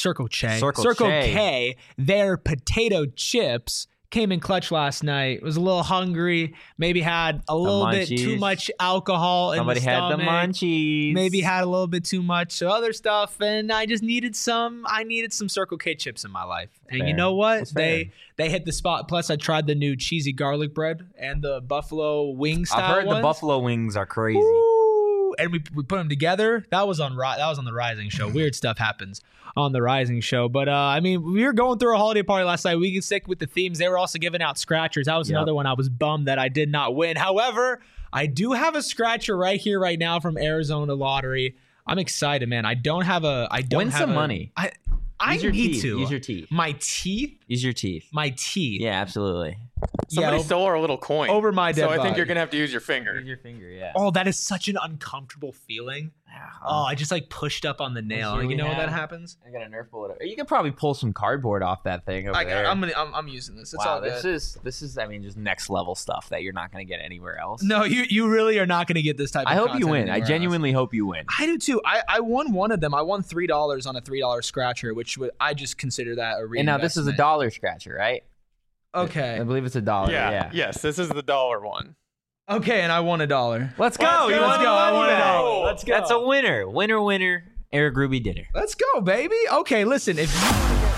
their potato chips came in clutch last night. Was a little hungry. Maybe had a little bit too much alcohol in the stomach. Somebody had the munchies. Maybe had a little bit too much other stuff, and I just needed some. I needed some Circle K chips in my life, and Fair. you know what? That's fair. They hit the spot. Plus, I tried the new cheesy garlic bread and the buffalo wing style. I've heard ones. the buffalo wings are crazy. Ooh, and we put them together. That was on the Rising Show. Weird stuff happens on the Rising Show. But I mean, we were going through a holiday party last night. We could stick with the themes. They were also giving out scratchers. That was another one I was bummed that I did not win. However, I do have a scratcher right here, right now from Arizona Lottery. I'm excited, man. I don't have Win some money. I Use your need teeth. to. Use your teeth. My teeth? Use your teeth. My teeth. Yeah, absolutely. Somebody Yeah, stole our little coin over my dead So I think body. you're gonna have to use your finger. Use your finger, yeah. Oh, that is such an uncomfortable feeling. Oh, I just like pushed up on the nail. Here You we know when that have- happens? I got a Nerf bullet. You could probably pull some cardboard off that thing over there. I'm using this. It's wow, all good. this is I mean just next level stuff that you're not going to get anywhere else. No, you really are not going to get this type of I hope you content win. I anywhere genuinely hope you win. else. I do too. I won one of them. I won $3 on a $3 scratcher, which I just consider that a reinvestment. And now this is a dollar scratcher, right? Okay. I believe it's $1. Yeah. Yes, this is the dollar one. Okay, and I won $1. Let's go. Let's You go. won Let's go. I won $1. Let's go. That's a winner. Winner. Eric Ruby dinner. Let's go, baby. Okay, listen. If you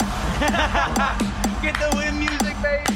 get the win music, baby.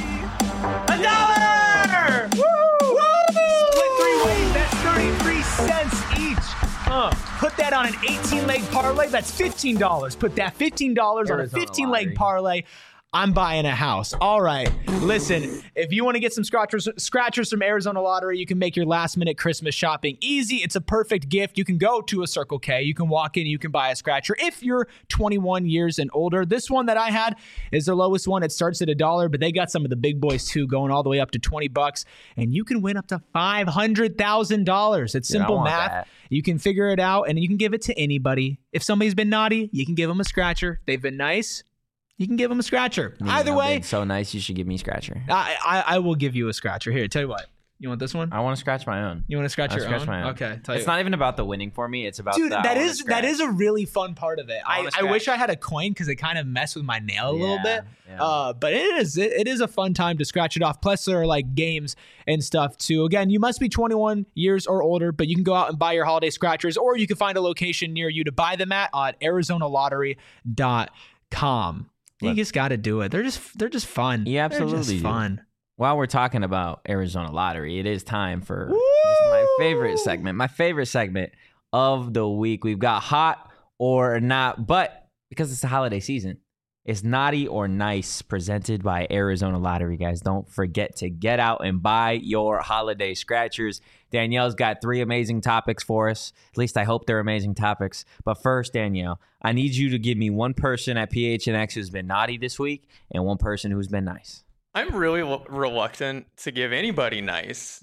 $1. Woo! Split 3 ways. That's 33 cents each. Put that on an 18-leg parlay. That's $15. Put that $15 on a Arizona 15-leg lottery. parlay. I'm buying a house. All right. Listen, if you want to get some scratchers from Arizona Lottery, you can make your last-minute Christmas shopping easy. It's a perfect gift. You can go to a Circle K. You can walk in. You can buy a scratcher if you're 21 years and older. This one that I had is the lowest one. It starts at $1, but they got some of the big boys too, going all the way up to $20, and you can win up to $500,000. It's simple want math. that. You can figure it out, and you can give it to anybody. If somebody's been naughty, you can give them a scratcher. They've been nice. You can give them a scratcher. Either I've way, been so nice. You should give me a scratcher. I will give you a scratcher. Here, tell you what. You want this one? I want to scratch my own. You want to scratch I'll your scratch own? my own. Okay. It's not even about the winning for me. It's about Dude, the, that is a really fun part of it. I wanna I wish scratch. I had a coin because it kind of messed with my nail a little bit. Yeah. But it is a fun time to scratch it off. Plus, there are like games and stuff too. Again, you must be 21 years or older, but you can go out and buy your holiday scratchers, or you can find a location near you to buy them at ArizonaLottery.com. You just got to do it. They're just fun. You absolutely They're just do. fun. While we're talking about Arizona Lottery, it is time for just my favorite segment of the week. We've got hot or not, but because it's the holiday season, it's naughty or nice, presented by Arizona Lottery, guys. Don't forget to get out and buy your holiday scratchers. Danielle's got 3 amazing topics for us. At least I hope they're amazing topics. But first, Danielle, I need you to give me one person at PHNX who's been naughty this week and one person who's been nice. I'm really reluctant to give anybody nice,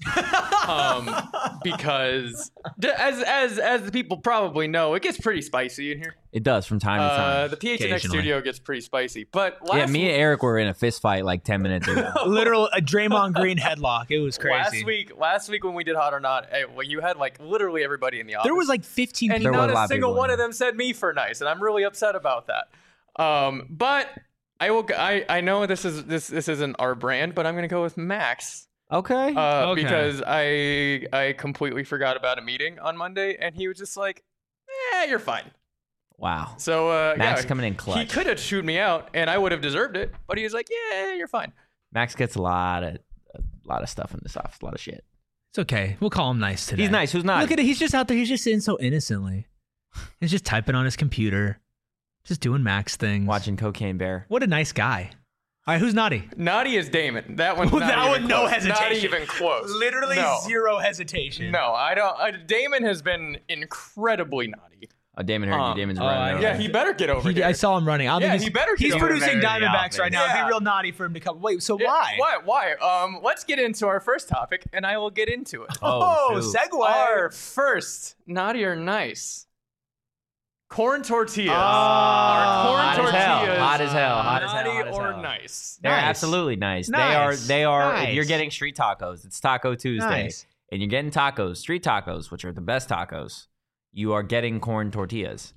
because as the people probably know, it gets pretty spicy in here. It does from time to time. The PHNX Occasionally. studio gets pretty spicy, but Yeah, me and Eric were in a fist fight like 10 minutes ago. Literal a Draymond Green headlock. It was crazy. last week when we did Hot or Not, you had like literally everybody in the office. There was like 15 and people. There was not a lot a of single people one in of them said me for nice, and I'm really upset about that. But I know this isn't our brand, but I'm gonna go with Max. Okay. Because I completely forgot about a meeting on Monday, and he was just like, you're fine. Wow. So Max yeah, coming in clutch. he could have chewed me out, and I would have deserved it, but he was like, yeah, you're fine. Max gets a lot of stuff in this office, a lot of shit. It's okay. We'll call him nice today. He's nice. Who's not? Look at it. He's just out there. He's just sitting so innocently. He's just typing on his computer, just doing Max things. Watching Cocaine Bear. What a nice guy. All right, who's naughty? Naughty is Damon. That one's not That even one, no close. hesitation. Not even close. Literally No. zero hesitation. No, I don't. Damon has been incredibly naughty. Oh, Damon heard you. Damon's oh, running. Yeah, he better get over here. I saw him running. I don't Yeah, think he better get He's over producing there in the Diamondbacks right now. It'd office. be real naughty for him to come. Wait, so Yeah, why? Why? Let's get into our first topic, and I will get into it. Oh, shoot. segue. Our first naughty or nice corn tortillas. Oh, Our corn hot as hell, tortillas. hot as hell, hot as hell, Naughty hot as or hell. nice? They're Nice. absolutely nice. Nice. They are. Nice. If you're getting street tacos, it's Taco Tuesday, Nice. and you're getting tacos, street tacos, which are the best tacos. You are getting corn tortillas.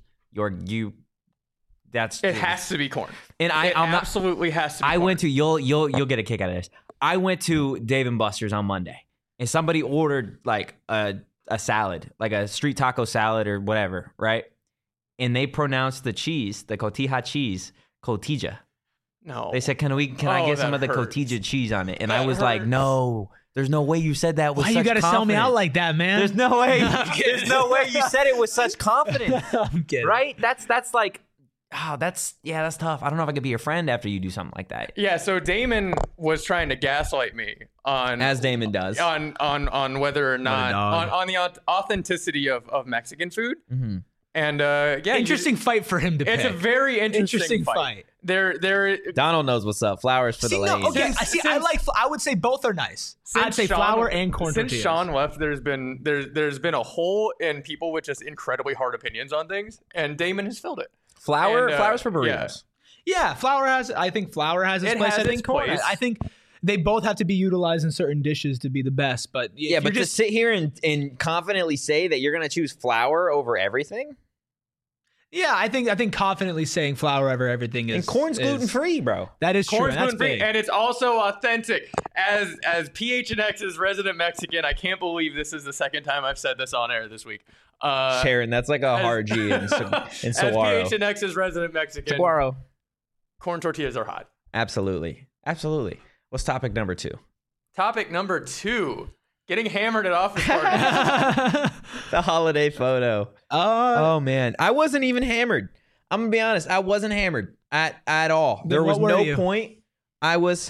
That's It has to be corn. And It I'm not. absolutely has to be I corn. went to you'll get a kick out of this. I went to Dave and Buster's on Monday, and somebody ordered like a salad, like a street taco salad or whatever, right? And they pronounced the cheese, the cotija cheese, cotija. No. They said, "Can I Oh, get some that of the hurts. cotija cheese on it?" And That I was like, hurts. "No, there's no way you said that with Why such you gotta sell me out confidence. like that, man? There's no way. There's no way you said it with such confidence, I'm kidding. right? That's like, that's tough. I don't know if I could be your friend after you do something like that. Yeah, so Damon was trying to gaslight me on As Damon does. on whether or not dog. on the authenticity of Mexican food. Mm-hmm. And yeah, Interesting fight for him to pick. It's a very interesting fight. There. Donald knows what's up. Flowers for See, the no, ladies. okay. Since- I would say both are nice. I'd say Sean- flour and corn Since tortillas. Sean left, there's been a hole in people with just incredibly hard opinions on things, and Damon has filled it. Flowers for yeah. burritos. Yeah, I think flour has its It place. has I think its corn. place. I think they both have to be utilized in certain dishes to be the best. But if Yeah, you're but to sit here and confidently say that you're going to choose flour over everything? yeah, I think confidently saying flour over everything is And corn's is- gluten-free, bro. That is true. Corn's and That's gluten-free, big. and it's also authentic. As PHNX's resident Mexican, I can't believe this is the second time I've said this on air this week. Sharon, that's like a hard G in As saguaro. PHNX's resident Mexican, Saguaro. corn tortillas are hot. Absolutely. What's topic number 2? Topic number 2: getting hammered at office parties. The holiday photo. Oh, man. I wasn't even hammered. I'm going to be honest. I wasn't hammered at all. There was what were no you? point. I was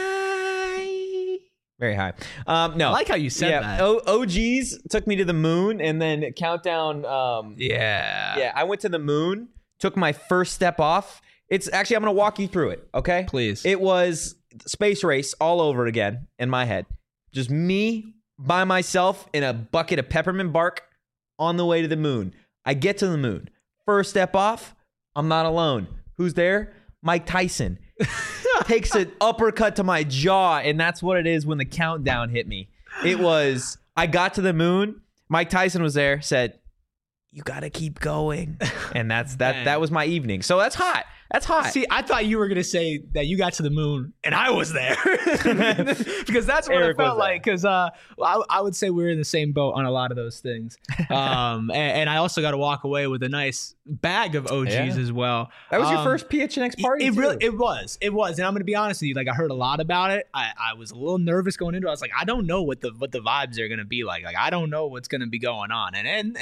high. Very high. No. I like how you said that. OGs took me to the moon and then countdown. Yeah. I went to the moon, took my first step off. It's actually, I'm going to walk you through it, okay? Please. It was space race all over again in my head. Just me by myself in a bucket of peppermint bark on the way to the moon. I get to the moon. First step off, I'm not alone. Who's there? Mike Tyson. Takes an uppercut to my jaw, and that's what it is when the countdown hit me. It was, I got to the moon. Mike Tyson was there, said, "You got to keep going." And that was my evening. So that's hot. That's hot. See, I thought you were going to say that you got to the moon and I was there. Because that's what Eric it felt was there. like. Because I would say we're in the same boat on a lot of those things. And I also got to walk away with a nice bag of OGs Yeah. as well. That was your first PHNX party, It too. really, it was. And I'm going to be honest with you. Like, I heard a lot about it. I was a little nervous going into it. I was like, I don't know what the vibes are going to be like. Like, I don't know what's going to be going on. And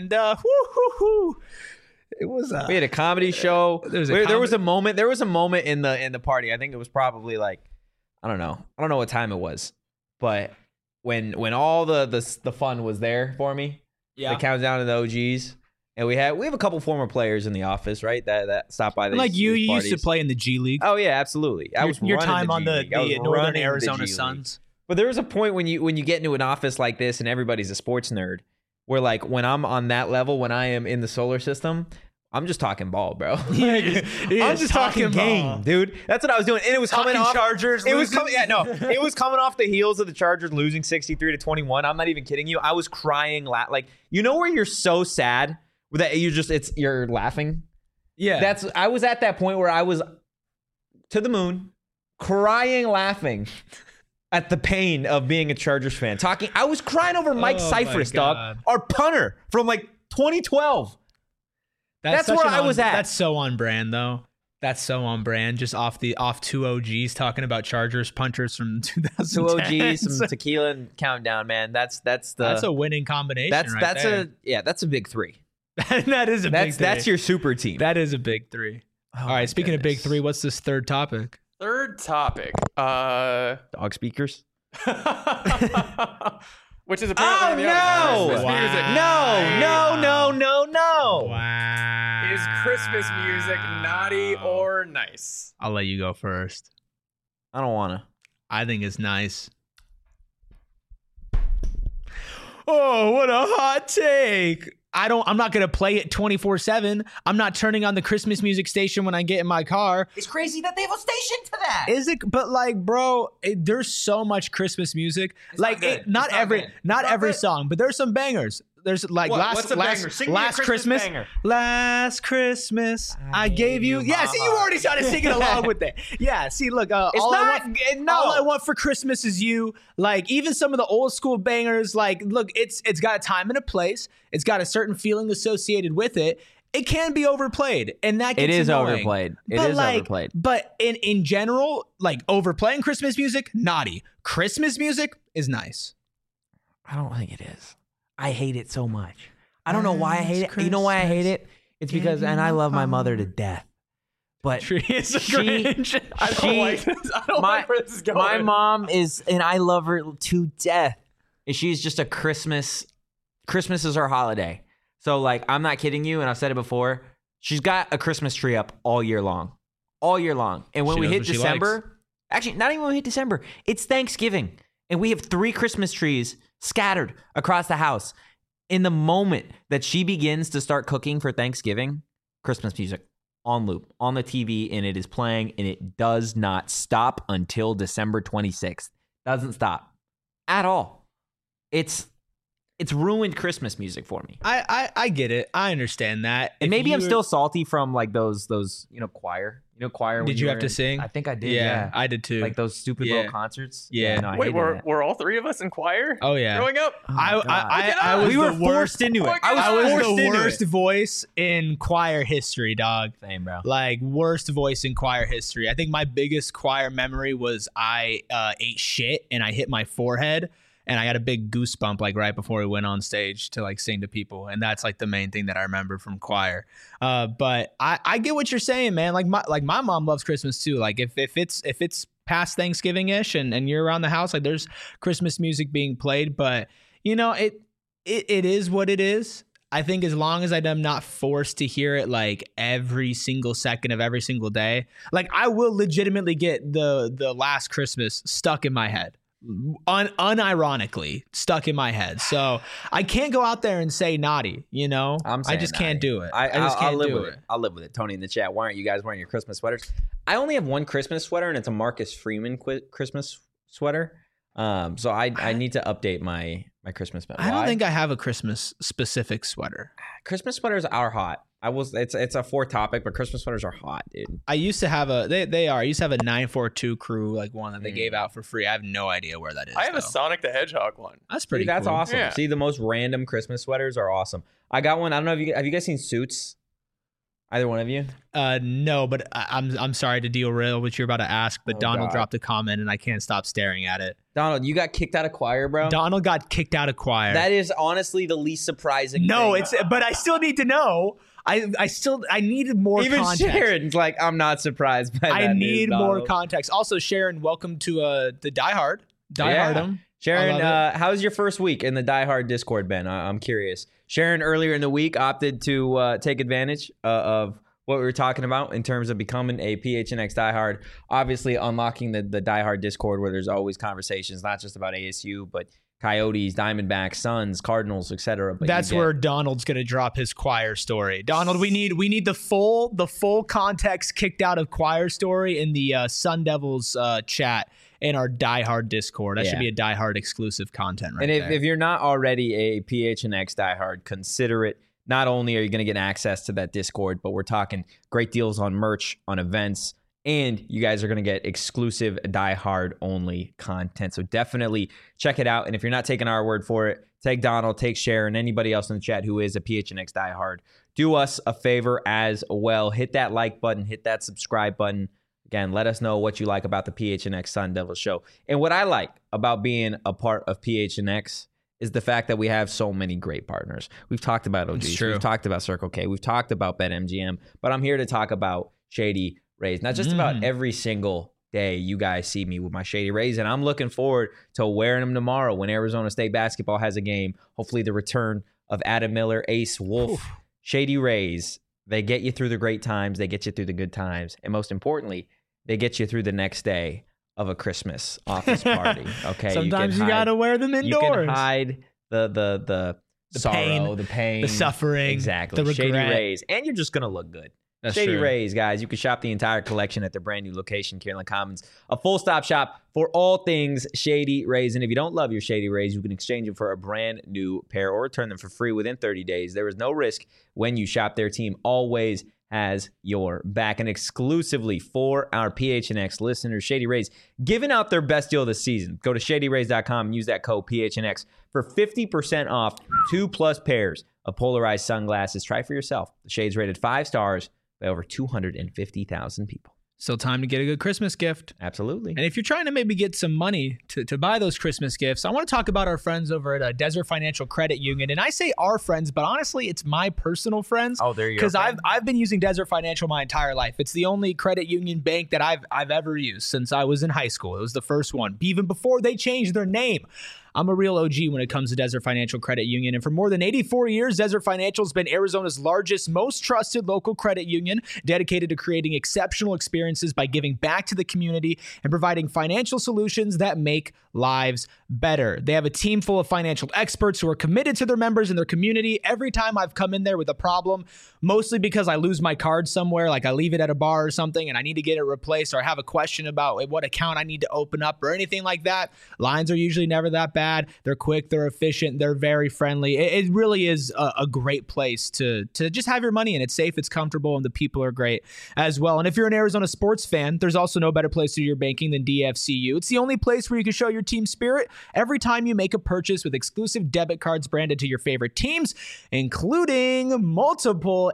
it was We had a comedy show. There was a There was a moment. There was a moment in the party. I think it was probably like, I don't know what time it was, but when all the fun was there for me, yeah. the countdown to the OGs, and we have a couple former players in the office, right? That stopped by. Like these you used to parties. play in the G League. Oh yeah, absolutely. I was your running time on G the League. I was Northern running the Arizona G League. Suns. But there was a point when you get into an office like this and everybody's a sports nerd, where like when I'm on that level, when I am in the solar system, I'm just talking ball, bro. I'm just talking game, dude. That's what I was doing, and it was coming Talking off Chargers. It was losing. coming. It was coming off the heels of the Chargers losing 63-21. I'm not even kidding you. I was crying, like you know where you're so sad that you're laughing. Yeah. I was at that point where I was to the moon, crying, laughing at the pain of being a Chargers fan. I was crying over Mike Oh, my Cyphers, God. dog, our punter from like 2012. That's such where an I was at. That's so on brand, though. That's so on brand. Just off two OGs talking about Chargers punters from 2010. 2 OGs, some tequila and countdown, man. That's a winning combination. that's right there. that's a big 3. That is a big three. That's your super team. That is a big three. All right, speaking of big three, what's this third topic? Third topic. Dog speakers. Which is apparently no! Christmas music. No. Wow. Is Christmas music naughty or nice? I'll let you go first. I don't want to. I think it's nice. Oh, what a hot take. I'm not going to play it 24/7. I'm not turning on the Christmas music station when I get in my car. It's crazy that they have a station to that. Is it? But like, bro, there's so much Christmas music. It's like, not good. not every song, but there's some bangers. There's like What's a banger? Sing me a last Christmas Christmas. banger. Last Christmas, I gave you. Yeah, see, you already started singing along with it. Yeah, see, look, all I want for Christmas is you. Like, even some of the old school bangers. Like, look, it's got a time and a place. It's got a certain feeling associated with it. It can be overplayed, and that gets It is annoying. overplayed. It is overplayed. But in general, like overplaying Christmas music, naughty. Christmas music is nice. I don't think it is. I hate it so much. I don't know why I hate it. You know why I hate it? It's because, and I love my mother to death, but She is a Grinch. I don't like this. I don't like where this is going. my mom is, and I love her to death. And she's just a Christmas is her holiday. So like, I'm not kidding you. And I've said it before. She's got a Christmas tree up all year long. And when She we knows hit what she December, actually not even when we hit December, it's Thanksgiving. And we have 3 Christmas trees scattered across the house. In the moment that she begins to start cooking for Thanksgiving, Christmas music on loop on the TV, and it is playing, and it does not stop until December 26th. Doesn't stop at all. It's ruined Christmas music for me. I get it. I understand that. And If maybe I'm you- still salty from like those choir. Choir. when Did you have were to in- sing? I think I did. Yeah, Yeah, I did too. like those stupid Yeah. little concerts. Yeah. no, I Wait, hated that. were all 3 of us in choir? Oh yeah. Growing up? I was we were the forced worst. into it. I I was forced the into worst it. voice in choir history, dog. Same, bro. Like worst voice in choir history. I think my biggest choir memory was I ate shit and I hit my forehead and I got a big goosebump like right before we went on stage to like sing to people, and that's like the main thing that I remember from choir. But I get what you're saying, man. Like my mom loves Christmas too. Like if it's past Thanksgiving ish and you're around the house, like there's Christmas music being played, but you know it is what it is. I think as long as I'm not forced to hear it like every single second of every single day, like I will legitimately get the Last Christmas stuck in my head. Unironically stuck in my head. So I can't go out there and say naughty, you know? I'm I saying just can't naughty. do it. I just I'll can't live do with it. I'll live with it. Tony in the chat, why aren't you guys wearing your Christmas sweaters? I only have one Christmas sweater, and it's a Marcus Freeman Christmas sweater. So I need to update my Christmas sweater. I don't think I have a Christmas specific sweater. Christmas sweaters are hot. It's a 4 topic, but Christmas sweaters are hot, dude. I used to have I used to have a 942 crew, like one that they gave out for free. I have no idea where that is. I have though. a Sonic the Hedgehog one. That's pretty See, that's cool. awesome. Yeah. See, the most random Christmas sweaters are awesome. I got one. I don't know if have you guys seen Suits? Either one of you? No, but I'm sorry to derail what you're about to ask, but Oh, Donald God. dropped a comment and I can't stop staring at it. Donald, you got kicked out of choir, bro? Donald got kicked out of choir. That is honestly the least surprising no, thing. but I still need to know. I needed more Even context. Sharon's like, I'm not surprised by that I news, need more Donald. context. Also, Sharon, welcome to the Die Hard. Die Yeah. Hard'em. Sharon, I love how's your first week in the Die Hard Discord been? I'm curious. Sharon earlier in the week opted to take advantage of what we were talking about in terms of becoming a PHNX Die Hard. Obviously, unlocking the Die Hard Discord where there's always conversations, not just about ASU, but Coyotes, Diamondbacks, Suns, Cardinals, etc. That's where Donald's gonna drop his choir story. Donald, we need the full context kicked out of choir story in the Sun Devils chat in our Die Hard Discord. That should be a Die Hard exclusive content right and there. if you're not already a PHNX Die Hard, consider it. Not only are you going to get access to that Discord, but we're talking great deals on merch, on events, and you guys are going to get exclusive Die Hard only content. So definitely check it out. And if you're not taking our word for it, take Donald, take Sharon, anybody else in the chat who is a PHNX Die Hard. Do us a favor as well. Hit that like button, hit that subscribe button. Again, let us know what you like about the PHNX Sun Devil show. And what I like about being a part of PHNX is the fact that we have so many great partners. We've talked about OGs. We've talked about Circle K. We've talked about BetMGM. But I'm here to talk about Shady Rays. Not just about every single day you guys see me with my Shady Rays. And I'm looking forward to wearing them tomorrow when Arizona State basketball has a game. Hopefully the return of Adam Miller, Ace Wolf. Shady Rays, they get you through the great times. They get you through the good times. And most importantly, they get you through the next day of a Christmas office party. Okay. Sometimes you gotta wear them indoors. You can hide the sorrow, the pain, the suffering, exactly. The Shady regret. Rays, and you're just gonna look good. That's Shady true. Rays, guys. You can shop the entire collection at their brand new location, Kierland Commons, a full-stop shop for all things Shady Rays. And if you don't love your Shady Rays, you can exchange them for a brand new pair or return them for free within 30 days. There is no risk when you shop. Their team always has your back. And exclusively for our PHNX listeners, Shady Rays giving out their best deal this season. Go to shadyrays.com and use that code PHNX for 50% off 2+ pairs of polarized sunglasses. Try for yourself. The shades rated 5 stars by over 250,000 people. Still time to get a good Christmas gift. Absolutely. And if you're trying to maybe get some money to buy those Christmas gifts, I want to talk about our friends over at Desert Financial Credit Union. And I say our friends, but honestly, it's my personal friends. Oh, there you go. Because I've been using Desert Financial my entire life. It's the only credit union bank that I've ever used since I was in high school. It was the first one, even before they changed their name. I'm a real OG when it comes to Desert Financial Credit Union. And for more than 84 years, Desert Financial has been Arizona's largest, most trusted local credit union, dedicated to creating exceptional experiences by giving back to the community and providing financial solutions that make lives better. They have a team full of financial experts who are committed to their members and their community. Every time I've come in there with a problem, mostly because I lose my card somewhere, like I leave it at a bar or something and I need to get it replaced, or I have a question about what account I need to open up or anything like that, lines are usually never that bad. They're quick, they're efficient, they're very friendly. It really is a great place to just have your money in. It's safe, it's comfortable, and the people are great as well. And if you're an Arizona sports fan, there's also no better place to do your banking than DFCU. It's the only place where you can show your team spirit every time you make a purchase with exclusive debit cards branded to your favorite teams, including multiple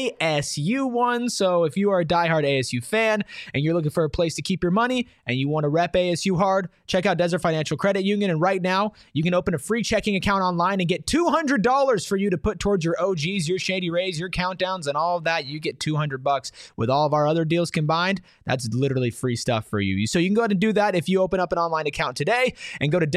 ASU ones. So if you are a diehard ASU fan and you're looking for a place to keep your money and you want to rep ASU hard, check out Desert Financial Credit Union. And right now, you can open a free checking account online and get $200 for you to put towards your OGs, your Shady Rays, your countdowns, and all of that. You get $200 with all of our other deals combined. That's literally free stuff for you. So you can go ahead and do that if you open up an online account today and go to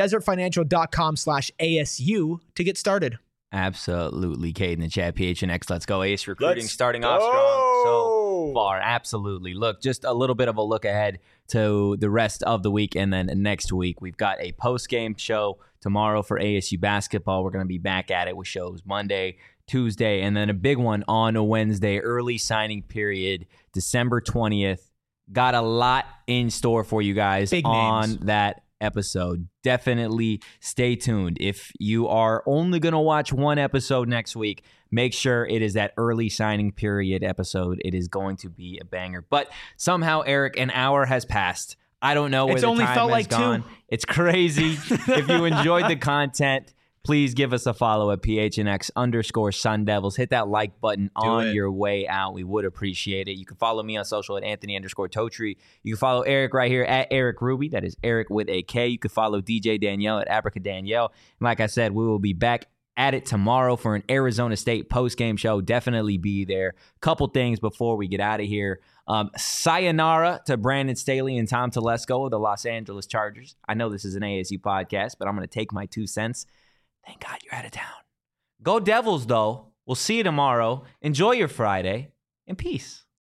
desertfinancial.com/ASU to get started. Absolutely. Cade in the chat, PHNX. Let's go. Ace recruiting starting off strong so far. Absolutely. Look, just a little bit of a look ahead to the rest of the week. And then next week, we've got a post-game show tomorrow for ASU basketball. We're going to be back at it with shows Monday, Tuesday, and then a big one on a Wednesday, early signing period, December 20th. Got a lot in store for you guys on that episode. Definitely stay tuned. If you are only going to watch one episode next week, make sure it is that early signing period episode. It is going to be a banger. But somehow, Eric, an hour has passed. I don't know where it's the only time felt has like gone. 2. It's crazy. If you enjoyed the content, please give us a follow at PHNX_Sun Devils. Hit that like button on your way out. We would appreciate it. You can follow me on social at Anthony_Totri. You can follow Eric right here at Eric Ruby. That is Eric with a K. You can follow DJ Danielle at Abraca Danielle. And like I said, we will be back at it tomorrow for an Arizona State post-game show. Definitely be there. Couple things before we get out of here. Sayonara to Brandon Staley and Tom Telesco of the Los Angeles Chargers. I know this is an ASU podcast, but I'm going to take my 2 cents. Thank God you're out of town. Go Devils, though. We'll see you tomorrow. Enjoy your Friday, and peace.